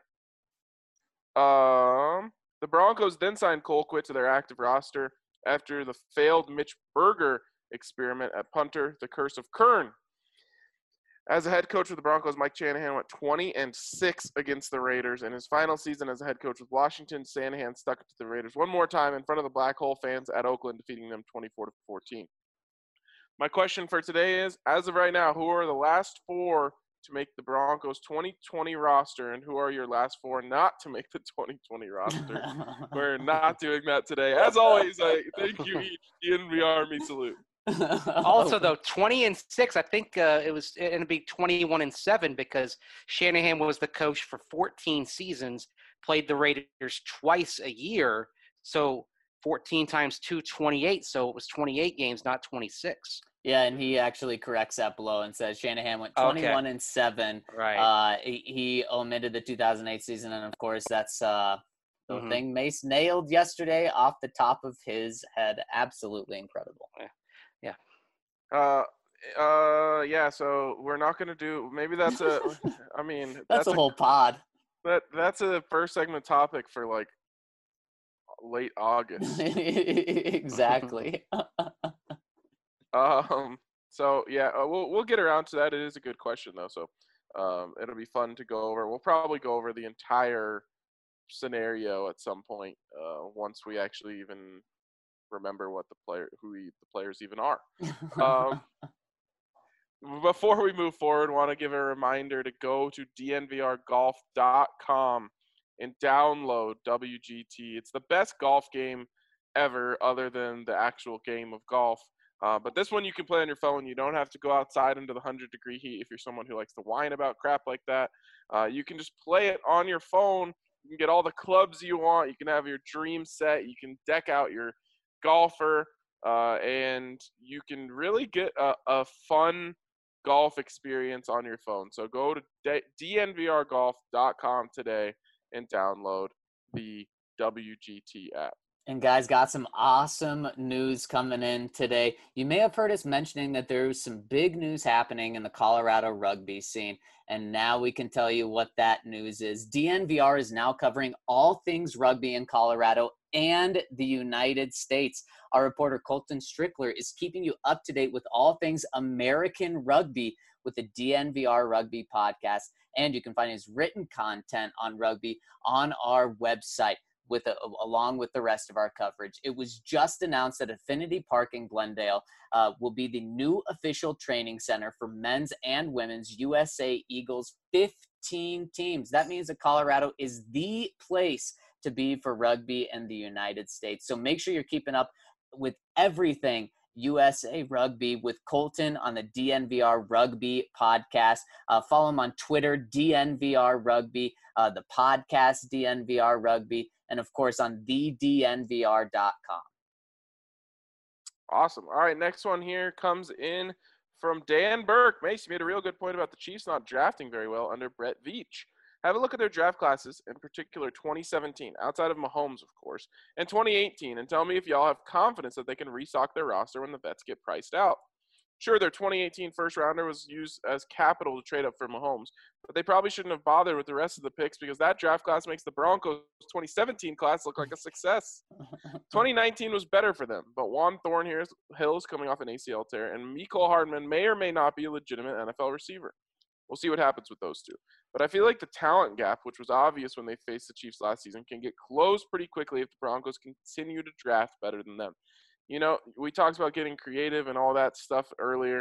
The Broncos then signed Colquitt to their active roster after the failed Mitch Berger experiment at punter, the curse of Kern. As a head coach with the Broncos, Mike Shanahan went 20-6 against the Raiders. In his final season as a head coach with Washington, Shanahan stuck it to the Raiders one more time in front of the Black Hole fans at Oakland, defeating them 24-14. My question for today is, as of right now, who are the last 4 to make the Broncos 2020 roster, and who are your last 4 not to make the 2020 roster? We're not doing that today. As always, I thank you each. DNVR Army salute. Also, though, 20-6, I think it was going to be 21-7 because Shanahan was the coach for 14 seasons, played the Raiders twice a year, so 14 times 2, 28, so it was 28 games, not 26. Yeah, and he actually corrects that below and says Shanahan went 21-7. Right. He omitted the 2008 season, and of course that's the thing Mace nailed yesterday off the top of his head. Absolutely incredible. Yeah, so we're not going to do – maybe that's a – I mean – that's a whole pod. That's a first segment topic for, like, late August. Exactly. So, yeah, we'll get around to that. It is a good question, though, so it'll be fun to go over. We'll probably go over the entire scenario at some point once we actually even – remember what the players even are. before we move forward, want to give a reminder to go to dnvrgolf.com and download WGT. It's the best golf game ever other than the actual game of golf. But this one you can play on your phone. You don't have to go outside into the 100-degree heat if you're someone who likes to whine about crap like that. You can just play it on your phone. You can get all the clubs you want. You can have your dream set. You can deck out your golfer. And you can really get a fun golf experience on your phone. So go to dnvrgolf.com today and download the WGT app. And guys, got some awesome news coming in today. You may have heard us mentioning that there's some big news happening in the Colorado rugby scene. And now we can tell you what that news is. DNVR is now covering all things rugby in Colorado and the United States. Our reporter Colton Strickler is keeping you up to date with all things American rugby with the DNVR Rugby podcast. And you can find his written content on rugby on our website along with the rest of our coverage. It was just announced that Affinity Park in Glendale will be the new official training center for men's and women's USA Eagles 15 teams. That means that Colorado is the place to be for rugby in the United States. So make sure you're keeping up with everything USA Rugby with Colton on the DNVR Rugby podcast. Follow him on Twitter, DNVR Rugby, the podcast DNVR Rugby, and of course on thednvr.com. Awesome. All right, next one here comes in from Dan Burke. Mace, you made a real good point about the Chiefs not drafting very well under Brett Veach. Have a look at their draft classes, in particular 2017, outside of Mahomes, of course, and 2018, and tell me if y'all have confidence that they can restock their roster when the vets get priced out. Sure, their 2018 first-rounder was used as capital to trade up for Mahomes, but they probably shouldn't have bothered with the rest of the picks because that draft class makes the Broncos' 2017 class look like a success. 2019 was better for them, but Juan Thornhill is coming off an ACL tear, and Mecole Hardman may or may not be a legitimate NFL receiver. We'll see what happens with those two. But I feel like the talent gap, which was obvious when they faced the Chiefs last season, can get closed pretty quickly if the Broncos continue to draft better than them. You know, we talked about getting creative and all that stuff earlier.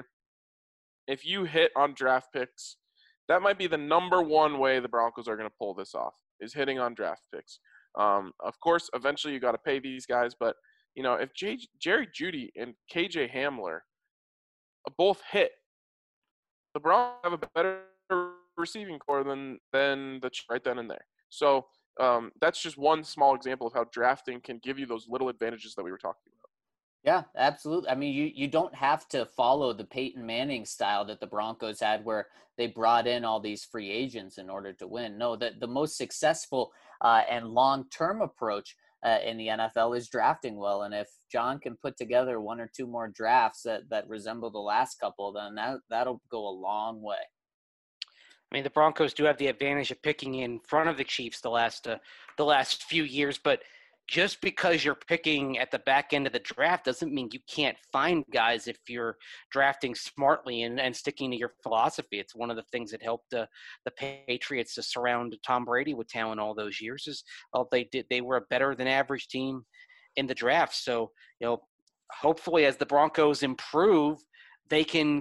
If you hit on draft picks, that might be the number one way the Broncos are going to pull this off, is hitting on draft picks. Of course, eventually you got to pay these guys, but, you know, if Jerry Jeudy and KJ Hamler both hit, the Broncos have a better receiving core than the Chiefs right then and there. So that's just one small example of how drafting can give you those little advantages that we were talking about. Yeah, absolutely. I mean, you don't have to follow the Peyton Manning style that the Broncos had where they brought in all these free agents in order to win. No, the most successful and long-term approach in the NFL is drafting well. And if John can put together one or two more drafts that resemble the last couple, then that'll go a long way. I mean, the Broncos do have the advantage of picking in front of the Chiefs the last few years, but just because you're picking at the back end of the draft doesn't mean you can't find guys if you're drafting smartly and sticking to your philosophy. It's one of the things that helped the Patriots to surround Tom Brady with talent all those years is they were a better than average team in the draft. So, you know, hopefully as the Broncos improve, they can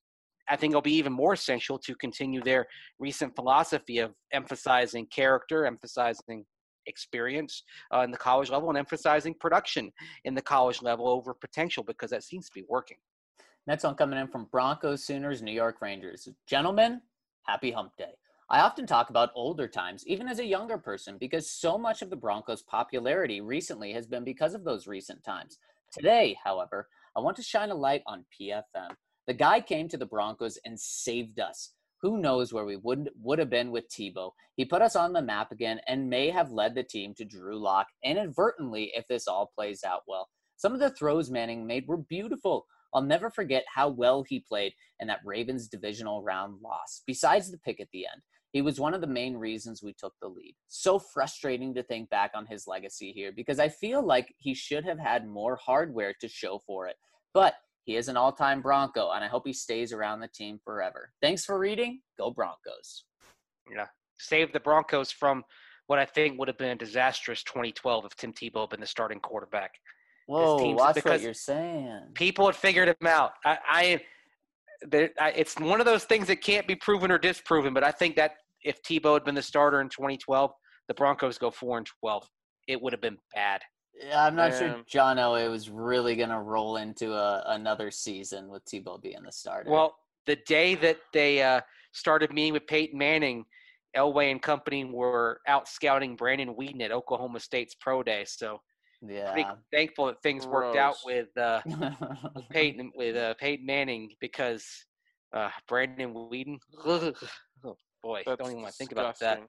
I think it'll be even more essential to continue their recent philosophy of emphasizing character, emphasizing experience in the college level, and emphasizing production in the college level over potential, because that seems to be working. Next one coming in from Broncos, Sooners, New York Rangers. Gentlemen, happy hump day. I often talk about older times, even as a younger person, because so much of the Broncos' popularity recently has been because of those recent times. Today, however, I want to shine a light on PFM. The guy came to the Broncos and saved us. Who knows where we would have been with Tebow. He put us on the map again and may have led the team to Drew Lock inadvertently if this all plays out well. Some of the throws Manning made were beautiful. I'll never forget how well he played in that Ravens divisional round loss. Besides the pick at the end, he was one of the main reasons we took the lead. So frustrating to think back on his legacy here because I feel like he should have had more hardware to show for it. But he is an all-time Bronco, and I hope he stays around the team forever. Thanks for reading. Go Broncos. Yeah, save the Broncos from what I think would have been a disastrous 2012 if Tim Tebow had been the starting quarterback. Whoa, watch what you're saying. People had figured him out. it's one of those things that can't be proven or disproven. But I think that if Tebow had been the starter in 2012, the Broncos go 4-12. It would have been bad. Yeah, I'm not sure Man. John Elway was really going to roll into another season with Tebow being the starter. Well, the day that they started meeting with Peyton Manning, Elway and company were out scouting Brandon Whedon at Oklahoma State's pro day. So pretty yeah. thankful that things worked out Gross. with Peyton Manning because Brandon Whedon. Oh boy, That's don't even want to think about that.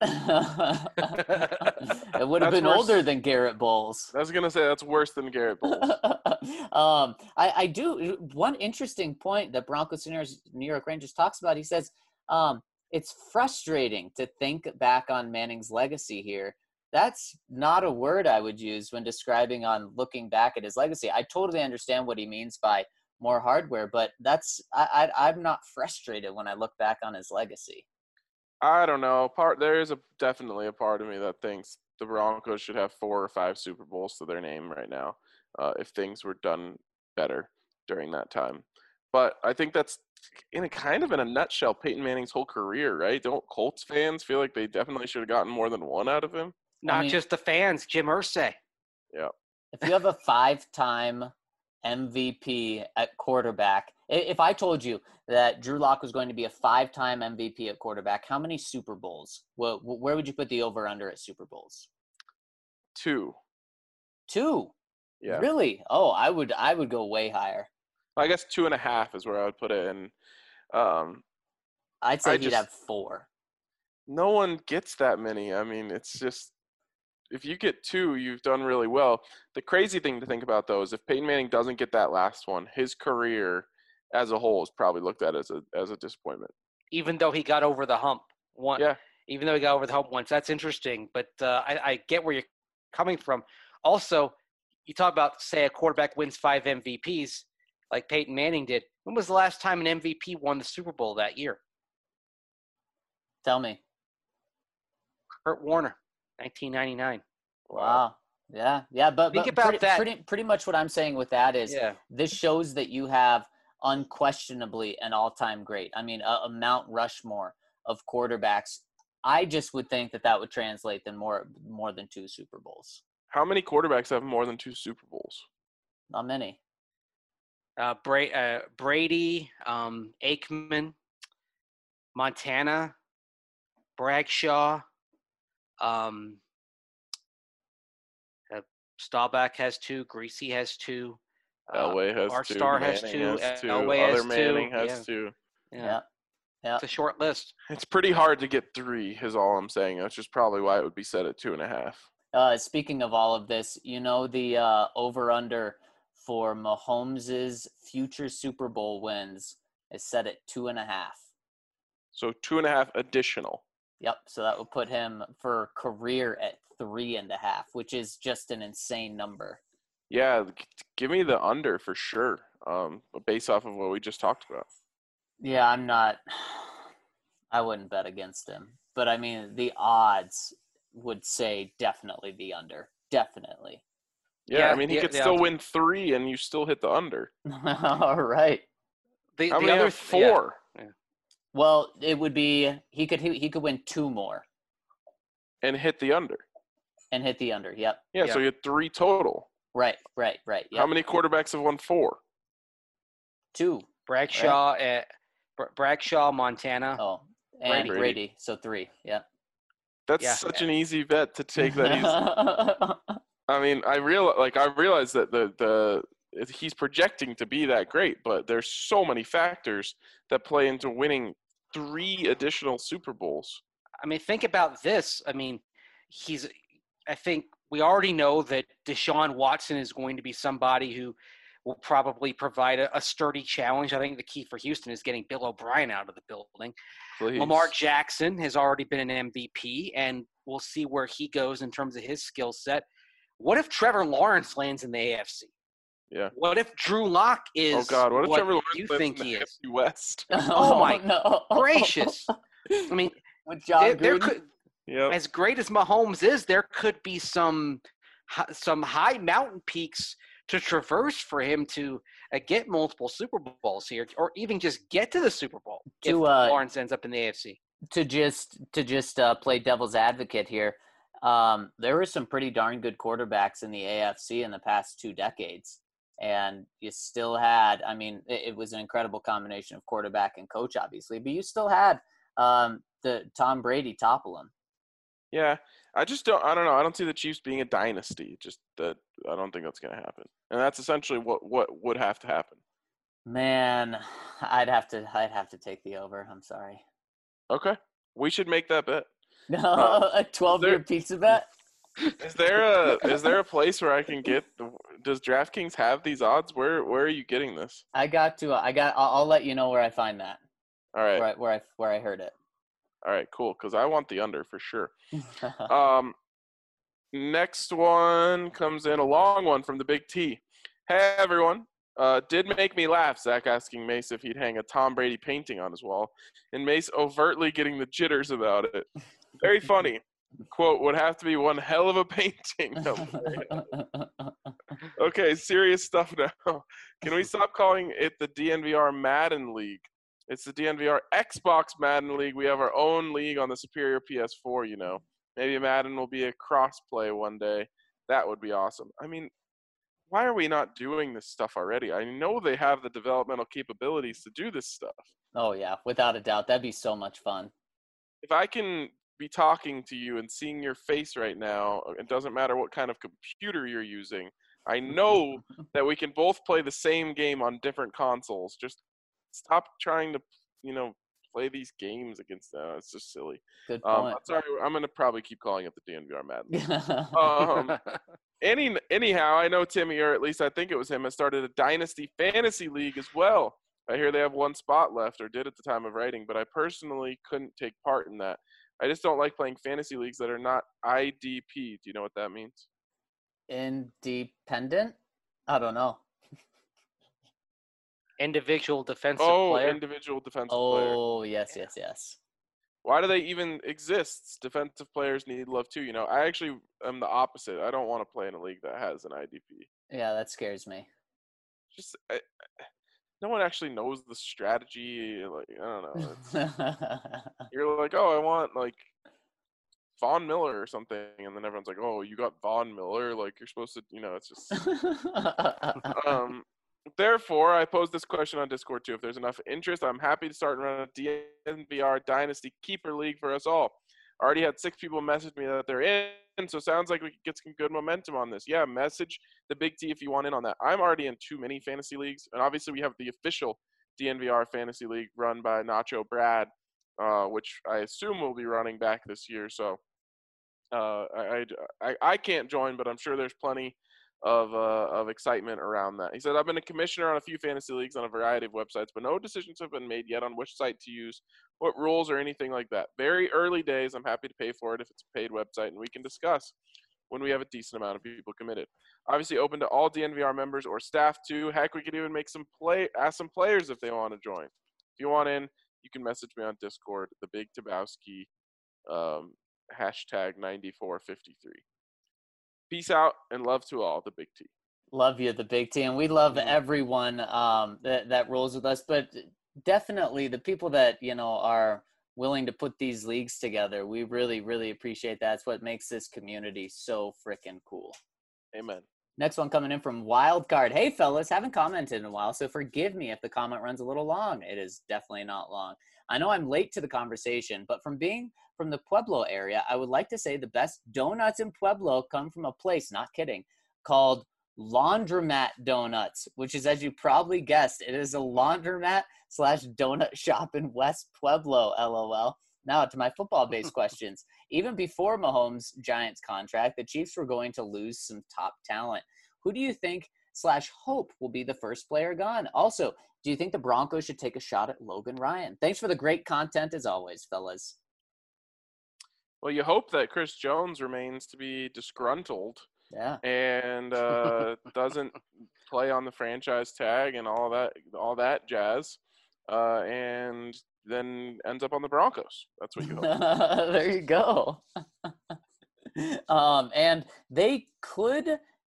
It would have That's been worse. older than Garrett Bowles. I was gonna say that's worse than Garrett Bowles. I do one interesting point that Broncos New York Rangers talks about. He says it's frustrating to think back on Manning's legacy here. That's not a word I would use when describing on looking back at his legacy. I totally understand what he means by more hardware, but I'm not frustrated when I look back on his legacy. I don't know. There is definitely a part of me that thinks the Broncos should have 4 or 5 Super Bowls to their name right now, if things were done better during that time. But I think that's in a nutshell Peyton Manning's whole career, right? Don't Colts fans feel like they definitely should have gotten more than one out of him? Not just the fans, Jim Irsay. Yeah. If you have a 5-time MVP at quarterback, if I told you that Drew Lock was going to be a 5-time MVP at quarterback, how many Super Bowls? Where would you put the over-under at Super Bowls? 2. 2? Yeah. Really? Oh, I would go way higher. I guess 2.5 is where I would put it. And I'd say he'd just- have 4. no one gets that many. I mean, it's just if you get 2, you've done really well. The crazy thing to think about, though, is if Peyton Manning doesn't get that last one, his career as a whole is probably looked at as a disappointment. Even though he got over the hump once. Yeah. Even though he got over the hump once. That's interesting. But I get where you're coming from. Also, you talk about, say, a quarterback wins 5 MVPs like Peyton Manning did. When was the last time an MVP won the Super Bowl that year? Tell me. Kurt Warner, 1999. Wow. Yeah. But Think about that. Pretty much what I'm saying with that is this shows that you have unquestionably an all-time great. I mean, a Mount Rushmore of quarterbacks. I just would think that would translate than more than 2 Super Bowls. How many quarterbacks have more than 2 Super Bowls? Not many. Brady, Aikman, Montana, Bradshaw, Staubach has 2, Greasy has 2, Elway has 2, Arstar has Manning 2, has 2, Elway has other Manning 2. has 2. Yeah. It's a short list. It's pretty hard to get 3 is all I'm saying. That's just probably why it would be set at 2.5. Speaking of all of this, the over-under for Mahomes' future Super Bowl wins is set at 2.5. So 2.5 additional. Yep. So that would put him for career at 3.5, which is just an insane number. Yeah, give me the under for sure. Based off of what we just talked about. Yeah, I wouldn't bet against him. But I mean, the odds would say definitely the under. Definitely. Yeah, I mean, he could still win 3 and you still hit the under. All right. How many have 4? Yeah. Well, it would be he could win 2 more and hit the under. And hit the under. Yep. Yeah, so you had 3 total. Right. Yep. How many quarterbacks have won 4? 2. Bradshaw, Bradshaw, Montana. Oh, and Brady. So 3. Yeah. That's such an easy bet to take that easy. I mean, I realize that he's projecting to be that great, but there's so many factors that play into winning 3 additional Super Bowls. I mean, think about this. I mean, I think we already know that Deshaun Watson is going to be somebody who will probably provide a sturdy challenge. I think the key for Houston is getting Bill O'Brien out of the building. Please. Lamar Jackson has already been an MVP, and we'll see where he goes in terms of his skill set. What if Trevor Lawrence lands in the AFC? Yeah. What if Drew Lock is what if Trevor Lawrence you lands think in the he is? AFC West? Oh my no. gracious. I mean, with John there Gruden? could, Yep. as great as Mahomes is, there could be some high mountain peaks to traverse for him to get multiple Super Bowls here, or even just get to the Super Bowl if Lawrence ends up in the AFC. To just play devil's advocate here, there were some pretty darn good quarterbacks in the AFC in the past 2 decades, and you still had. I mean, it was an incredible combination of quarterback and coach, obviously, but you still had the Tom Brady topple him. Yeah, I don't know. I don't see the Chiefs being a dynasty. Just that I don't think that's going to happen, and that's essentially what would have to happen. Man, I'd have to take the over. I'm sorry. Okay, we should make that bet. No, a 12-year pizza bet. Is there a place where I can get? Does DraftKings have these odds? Where are you getting this? I'll let you know where I find that. All right. Where I heard it. All right, cool. Because I want the under for sure. Next one comes in, a long one from the Big T. Hey everyone. Did make me laugh, Zach asking Mace if he'd hang a Tom Brady painting on his wall, and Mace overtly getting the jitters about it. Very funny. Quote, would have to be one hell of a painting. Okay, serious stuff now. Can we stop calling it the DNVR Madden League? It's the DNVR Xbox Madden League. We have our own league on the superior PS4, you know. Maybe Madden will be a cross-play one day. That would be awesome. I mean, why are we not doing this stuff already? I know they have the developmental capabilities to do this stuff. Oh, yeah, without a doubt. That'd be so much fun. If I can be talking to you and seeing your face right now, it doesn't matter what kind of computer you're using, I know that we can both play the same game on different consoles. Just stop trying to, play these games against them. It's just silly. Good point. Sorry, I'm going to probably keep calling it the DNVR Madden. Anyhow, I know Timmy, or at least I think it was him, has started a Dynasty Fantasy League as well. I hear they have one spot left, or did at the time of writing, but I personally couldn't take part in that. I just don't like playing fantasy leagues that are not IDP. Do you know what that means? Independent? I don't know. Individual defensive player. Individual defensive player. Oh, yes. Why do they even exist? Defensive players need love too. I actually am the opposite. I don't want to play in a league that has an IDP. Yeah, that scares me. Just no one actually knows the strategy. Like, I don't know. You're like, oh, I want like Von Miller or something, and then everyone's like, oh, you got Von Miller. Like you're supposed to. It's just. Therefore, I posed this question on Discord too. If there's enough interest, I'm happy to start and run a DNVR Dynasty Keeper League for us all. I already had 6 people message me that they're in, so sounds like we could get some good momentum on this. Yeah, message the Big T if you want in on that. I'm already in too many fantasy leagues, and obviously we have the official DNVR Fantasy League run by Nacho Brad, which I assume will be running back this year. So I can't join, but I'm sure there's plenty of excitement around that. He said, I've been a commissioner on a few fantasy leagues on a variety of websites, but no decisions have been made yet on which site to use, what rules, or anything like that. Very early days. I'm happy to pay for it if it's a paid website, and we can discuss when we have a decent amount of people committed. Obviously open to all DNVR members or staff too. Heck, we could even make ask some players if they want to join. If you want in, you can message me on Discord, the Big Tabowski, hashtag 9453. Peace out and love to all, the Big T. Love you, the Big T, and we love everyone that rolls with us. But definitely the people that are willing to put these leagues together, we really, really appreciate that. It's what makes this community so freaking cool. Amen. Next one coming in from Wildcard. Hey, fellas, haven't commented in a while, so forgive me if the comment runs a little long. It is definitely not long. I know I'm late to the conversation, but from being from the Pueblo area, I would like to say the best donuts in Pueblo come from a place, not kidding, called Laundromat Donuts, which is, as you probably guessed, it is a laundromat / donut shop in West Pueblo, LOL. Now to my football-based questions. Even before Mahomes' Giants contract, the Chiefs were going to lose some top talent. Who do you think / hope will be the first player gone? Also, do you think the Broncos should take a shot at Logan Ryan? Thanks for the great content as always, fellas. Well, you hope that Chris Jones remains to be disgruntled. Yeah. And doesn't play on the franchise tag and all that jazz. And then ends up on the Broncos. That's what you hope. There you go. And they could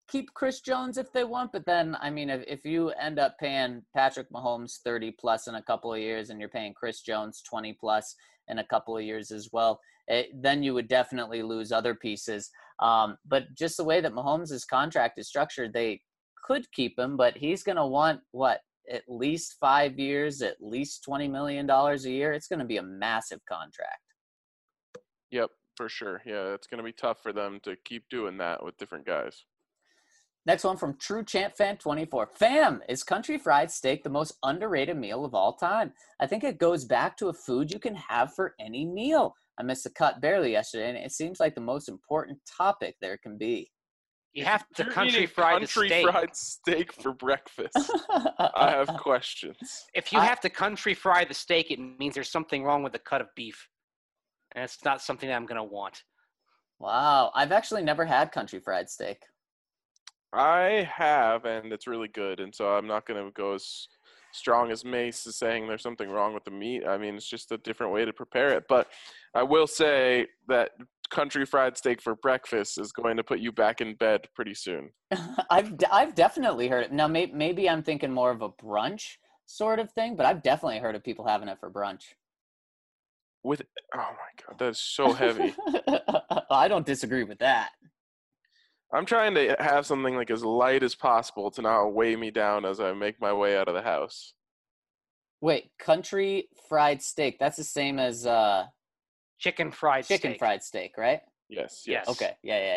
keep Chris Jones if they want, but then, I mean, if you end up paying Patrick Mahomes 30 plus in a couple of years and you're paying Chris Jones 20 plus in a couple of years as well, then you would definitely lose other pieces. But just the way that Mahomes' contract is structured, they could keep him, but he's going to want, at least 5 years, at least $20 million a year. It's going to be a massive contract. Yep, for sure. Yeah, it's going to be tough for them to keep doing that with different guys. Next one from True Champ Fan 24. Fam, is country fried steak the most underrated meal of all time? I think it goes back to a food you can have for any meal. I missed the cut barely yesterday, and it seems like the most important topic there can be. You have to You're country eating fry the country steak. fried steak for breakfast. I have questions. If you have to country fry the steak, it means there's something wrong with the cut of beef. And it's not something that I'm going to want. Wow. I've actually never had country fried steak. I have, and it's really good. And so I'm not going to go as strong as Mace is saying there's something wrong with the meat. I mean, it's just a different way to prepare it. But I will say that country fried steak for breakfast is going to put you back in bed pretty soon. I've definitely heard it. Now, maybe I'm thinking more of a brunch sort of thing, but I've definitely heard of people having it for brunch. Oh my God, that's so heavy. I don't disagree with that. I'm trying to have something like as light as possible to not weigh me down as I make my way out of the house. Wait, country fried steak. That's the same as Chicken fried steak. fried steak, right? Yes. Yes. Okay.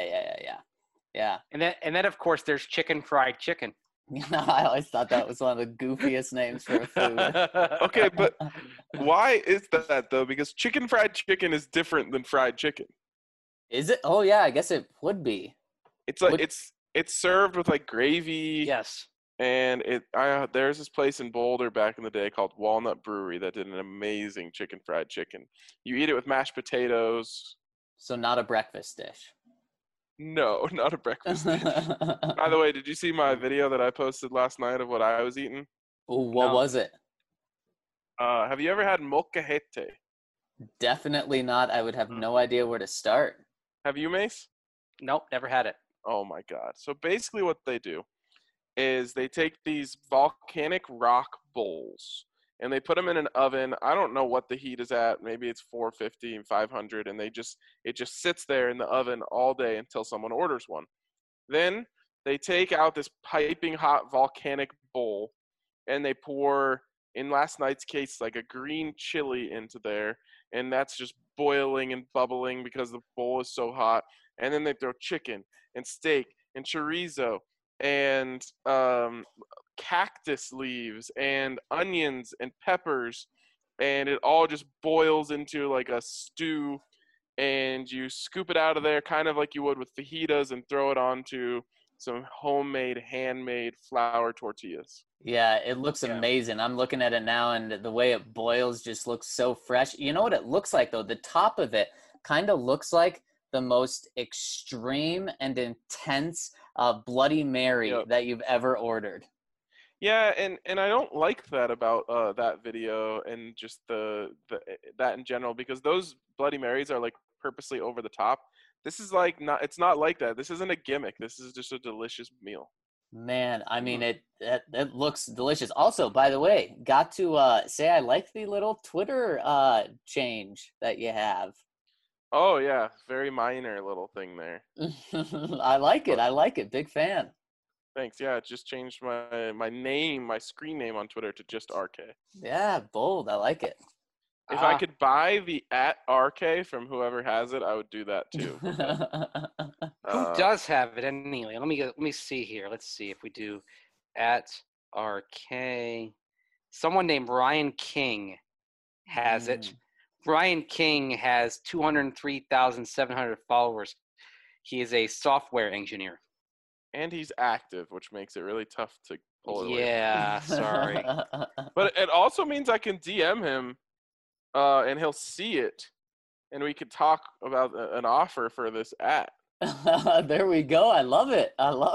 Yeah. And then of course there's chicken fried chicken. I always thought that was one of the goofiest names for a food. Okay, but why is that though? Because chicken fried chicken is different than fried chicken. Is it? Oh yeah, I guess it would be. It's like it's served with like gravy. Yes. And there's this place in Boulder back in the day called Walnut Brewery that did an amazing chicken fried chicken. You eat it with mashed potatoes. So not a breakfast dish. No, not a breakfast dish. By the way, did you see my video that I posted last night of what I was eating? What was it? Have you ever had molcajete? Definitely not. I would have no idea where to start. Have you, Mace? Nope, never had it. Oh my God. So basically what they do is they take these volcanic rock bowls and they put them in an oven. I don't know what the heat is at. Maybe it's 450 and 500, and it just sits there in the oven all day until someone orders one. Then they take out this piping hot volcanic bowl and they pour, in last night's case, like a green chili into there, and that's just boiling and bubbling because the bowl is so hot. And then they throw chicken and steak and chorizo and cactus leaves and onions and peppers, and it all just boils into like a stew, and you scoop it out of there kind of like you would with fajitas and throw it onto some handmade flour tortillas. Yeah, it looks amazing. I'm looking at it now, and the way it boils just looks so fresh. You know what it looks like, though? The top of it kind of looks like the most extreme and intense Bloody Mary that you've ever ordered. Yeah, and I don't like that about that video and just the that in general, because those Bloody Marys are like purposely over the top. This is like it's not like that. This isn't a gimmick. This is just a delicious meal. Man, I mean, it looks delicious. Also, by the way, got to say I like the little Twitter change that you have. Oh yeah, very minor little thing there. I like it. Big fan. Thanks. Yeah, it just changed my name, my screen name on Twitter to just RK. Yeah, bold. I like it. If I could buy the @RK from whoever has it, I would do that too. Who does have it anyway? Let me see here. Let's see if we do @RK. Someone named Ryan King has it. Ryan King has 203,700 followers. He is a software engineer. And he's active, which makes it really tough to pull it away. Yeah, sorry. But it also means I can DM him, and he'll see it, and we could talk about an offer for this There we go. I love it.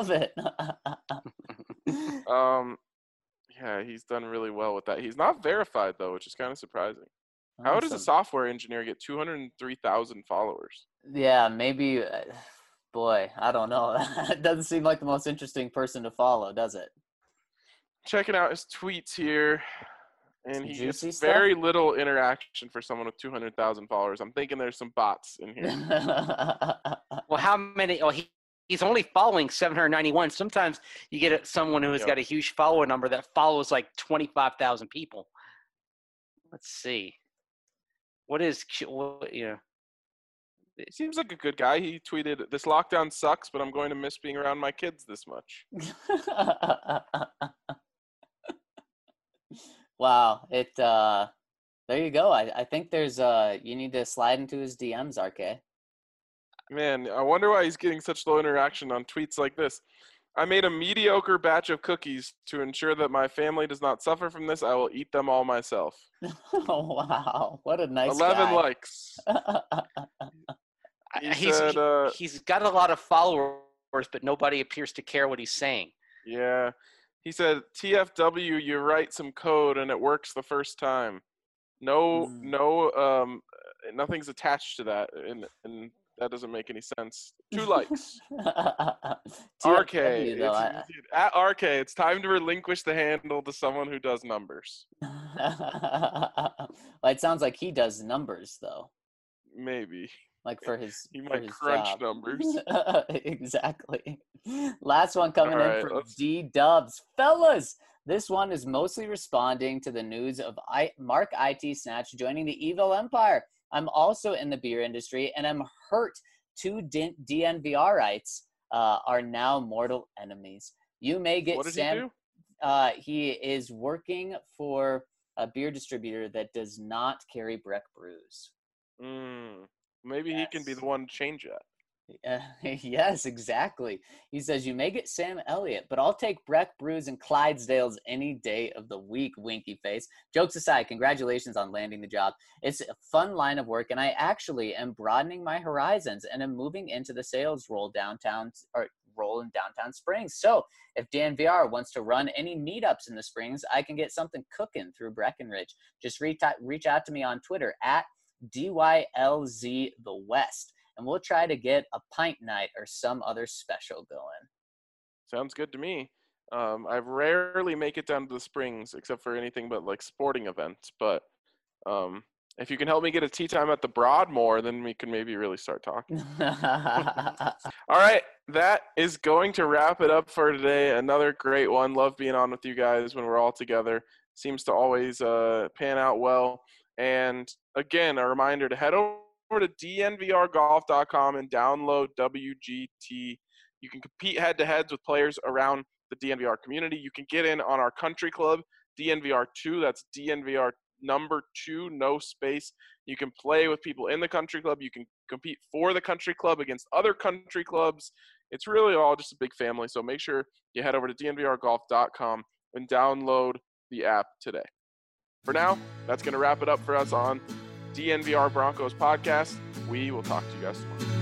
Yeah, he's done really well with that. He's not verified though, which is kind of surprising. How does a software engineer get 203,000 followers? Yeah, maybe boy, I don't know. That doesn't seem like the most interesting person to follow, does it? Checking out his tweets here, and Some he juicy gets stuff? very little interaction for someone with 200,000 followers. I'm thinking there's some bots in here. Well, how many? Oh, he's only following 791. Sometimes you get someone who has Yeah. got a huge follower number that follows like 25,000 people. Let's see. What is He seems like a good guy. He tweeted, "This lockdown sucks, but I'm going to miss being around my kids this much." Wow. There you go. I think there's you need to slide into his DMs, RK. Man, I wonder why he's getting such low interaction on tweets like this. I made a mediocre batch of cookies to ensure that my family does not suffer from this. I will eat them all myself. Oh, wow. What a nice 11 guy. likes. He said, he's got a lot of followers, but nobody appears to care what he's saying. yeah. He said, TFW, you write some code and it works the first time. Nothing's attached to that, and that doesn't make any sense. 2 likes. RK, TFW, though, at RK, it's time to relinquish the handle to someone who does numbers. Well, it sounds like he does numbers, though. Maybe. Like for his He for might his crunch job. numbers. Exactly. Last one coming All in right, from let's- D-Dubs. Fellas, this one is mostly responding to the news of Mark IT Snatch joining the Evil Empire. I'm also in the beer industry, and I'm hurt 2 DNVRites are now mortal enemies. You may get What did Sam. he do? He is working for a beer distributor that does not carry Breck brews. Maybe he can be Yes. the one to change that. Yes, exactly. He says, you may get Sam Elliott, but I'll take Breck Brews and Clydesdales any day of the week, winky face. Jokes aside, congratulations on landing the job. It's a fun line of work, and I actually am broadening my horizons and am moving into the sales role in downtown Springs. So if Dan VR wants to run any meetups in the Springs, I can get something cooking through Breckenridge. Just reach out to me on Twitter at DYLZ the West. And we'll try to get a pint night or some other special going. Sounds good to me. I rarely make it down to the Springs except for anything but like sporting events. But if you can help me get a tea time at the Broadmoor, then we can maybe really start talking. All right, that is going to wrap it up for today. Another great one. Love being on with you guys when we're all together. Seems to always pan out well. And again, a reminder to head over to dnvrgolf.com and download WGT. You can compete head-to-heads with players around the DNVR community. You can get in on our country club, DNVR2. That's DNVR number 2, no space. You can play with people in the country club. You can compete for the country club against other country clubs. It's really all just a big family. So make sure you head over to dnvrgolf.com and download the app today. For now, that's going to wrap it up for us on DNVR Broncos podcast. We will talk to you guys tomorrow.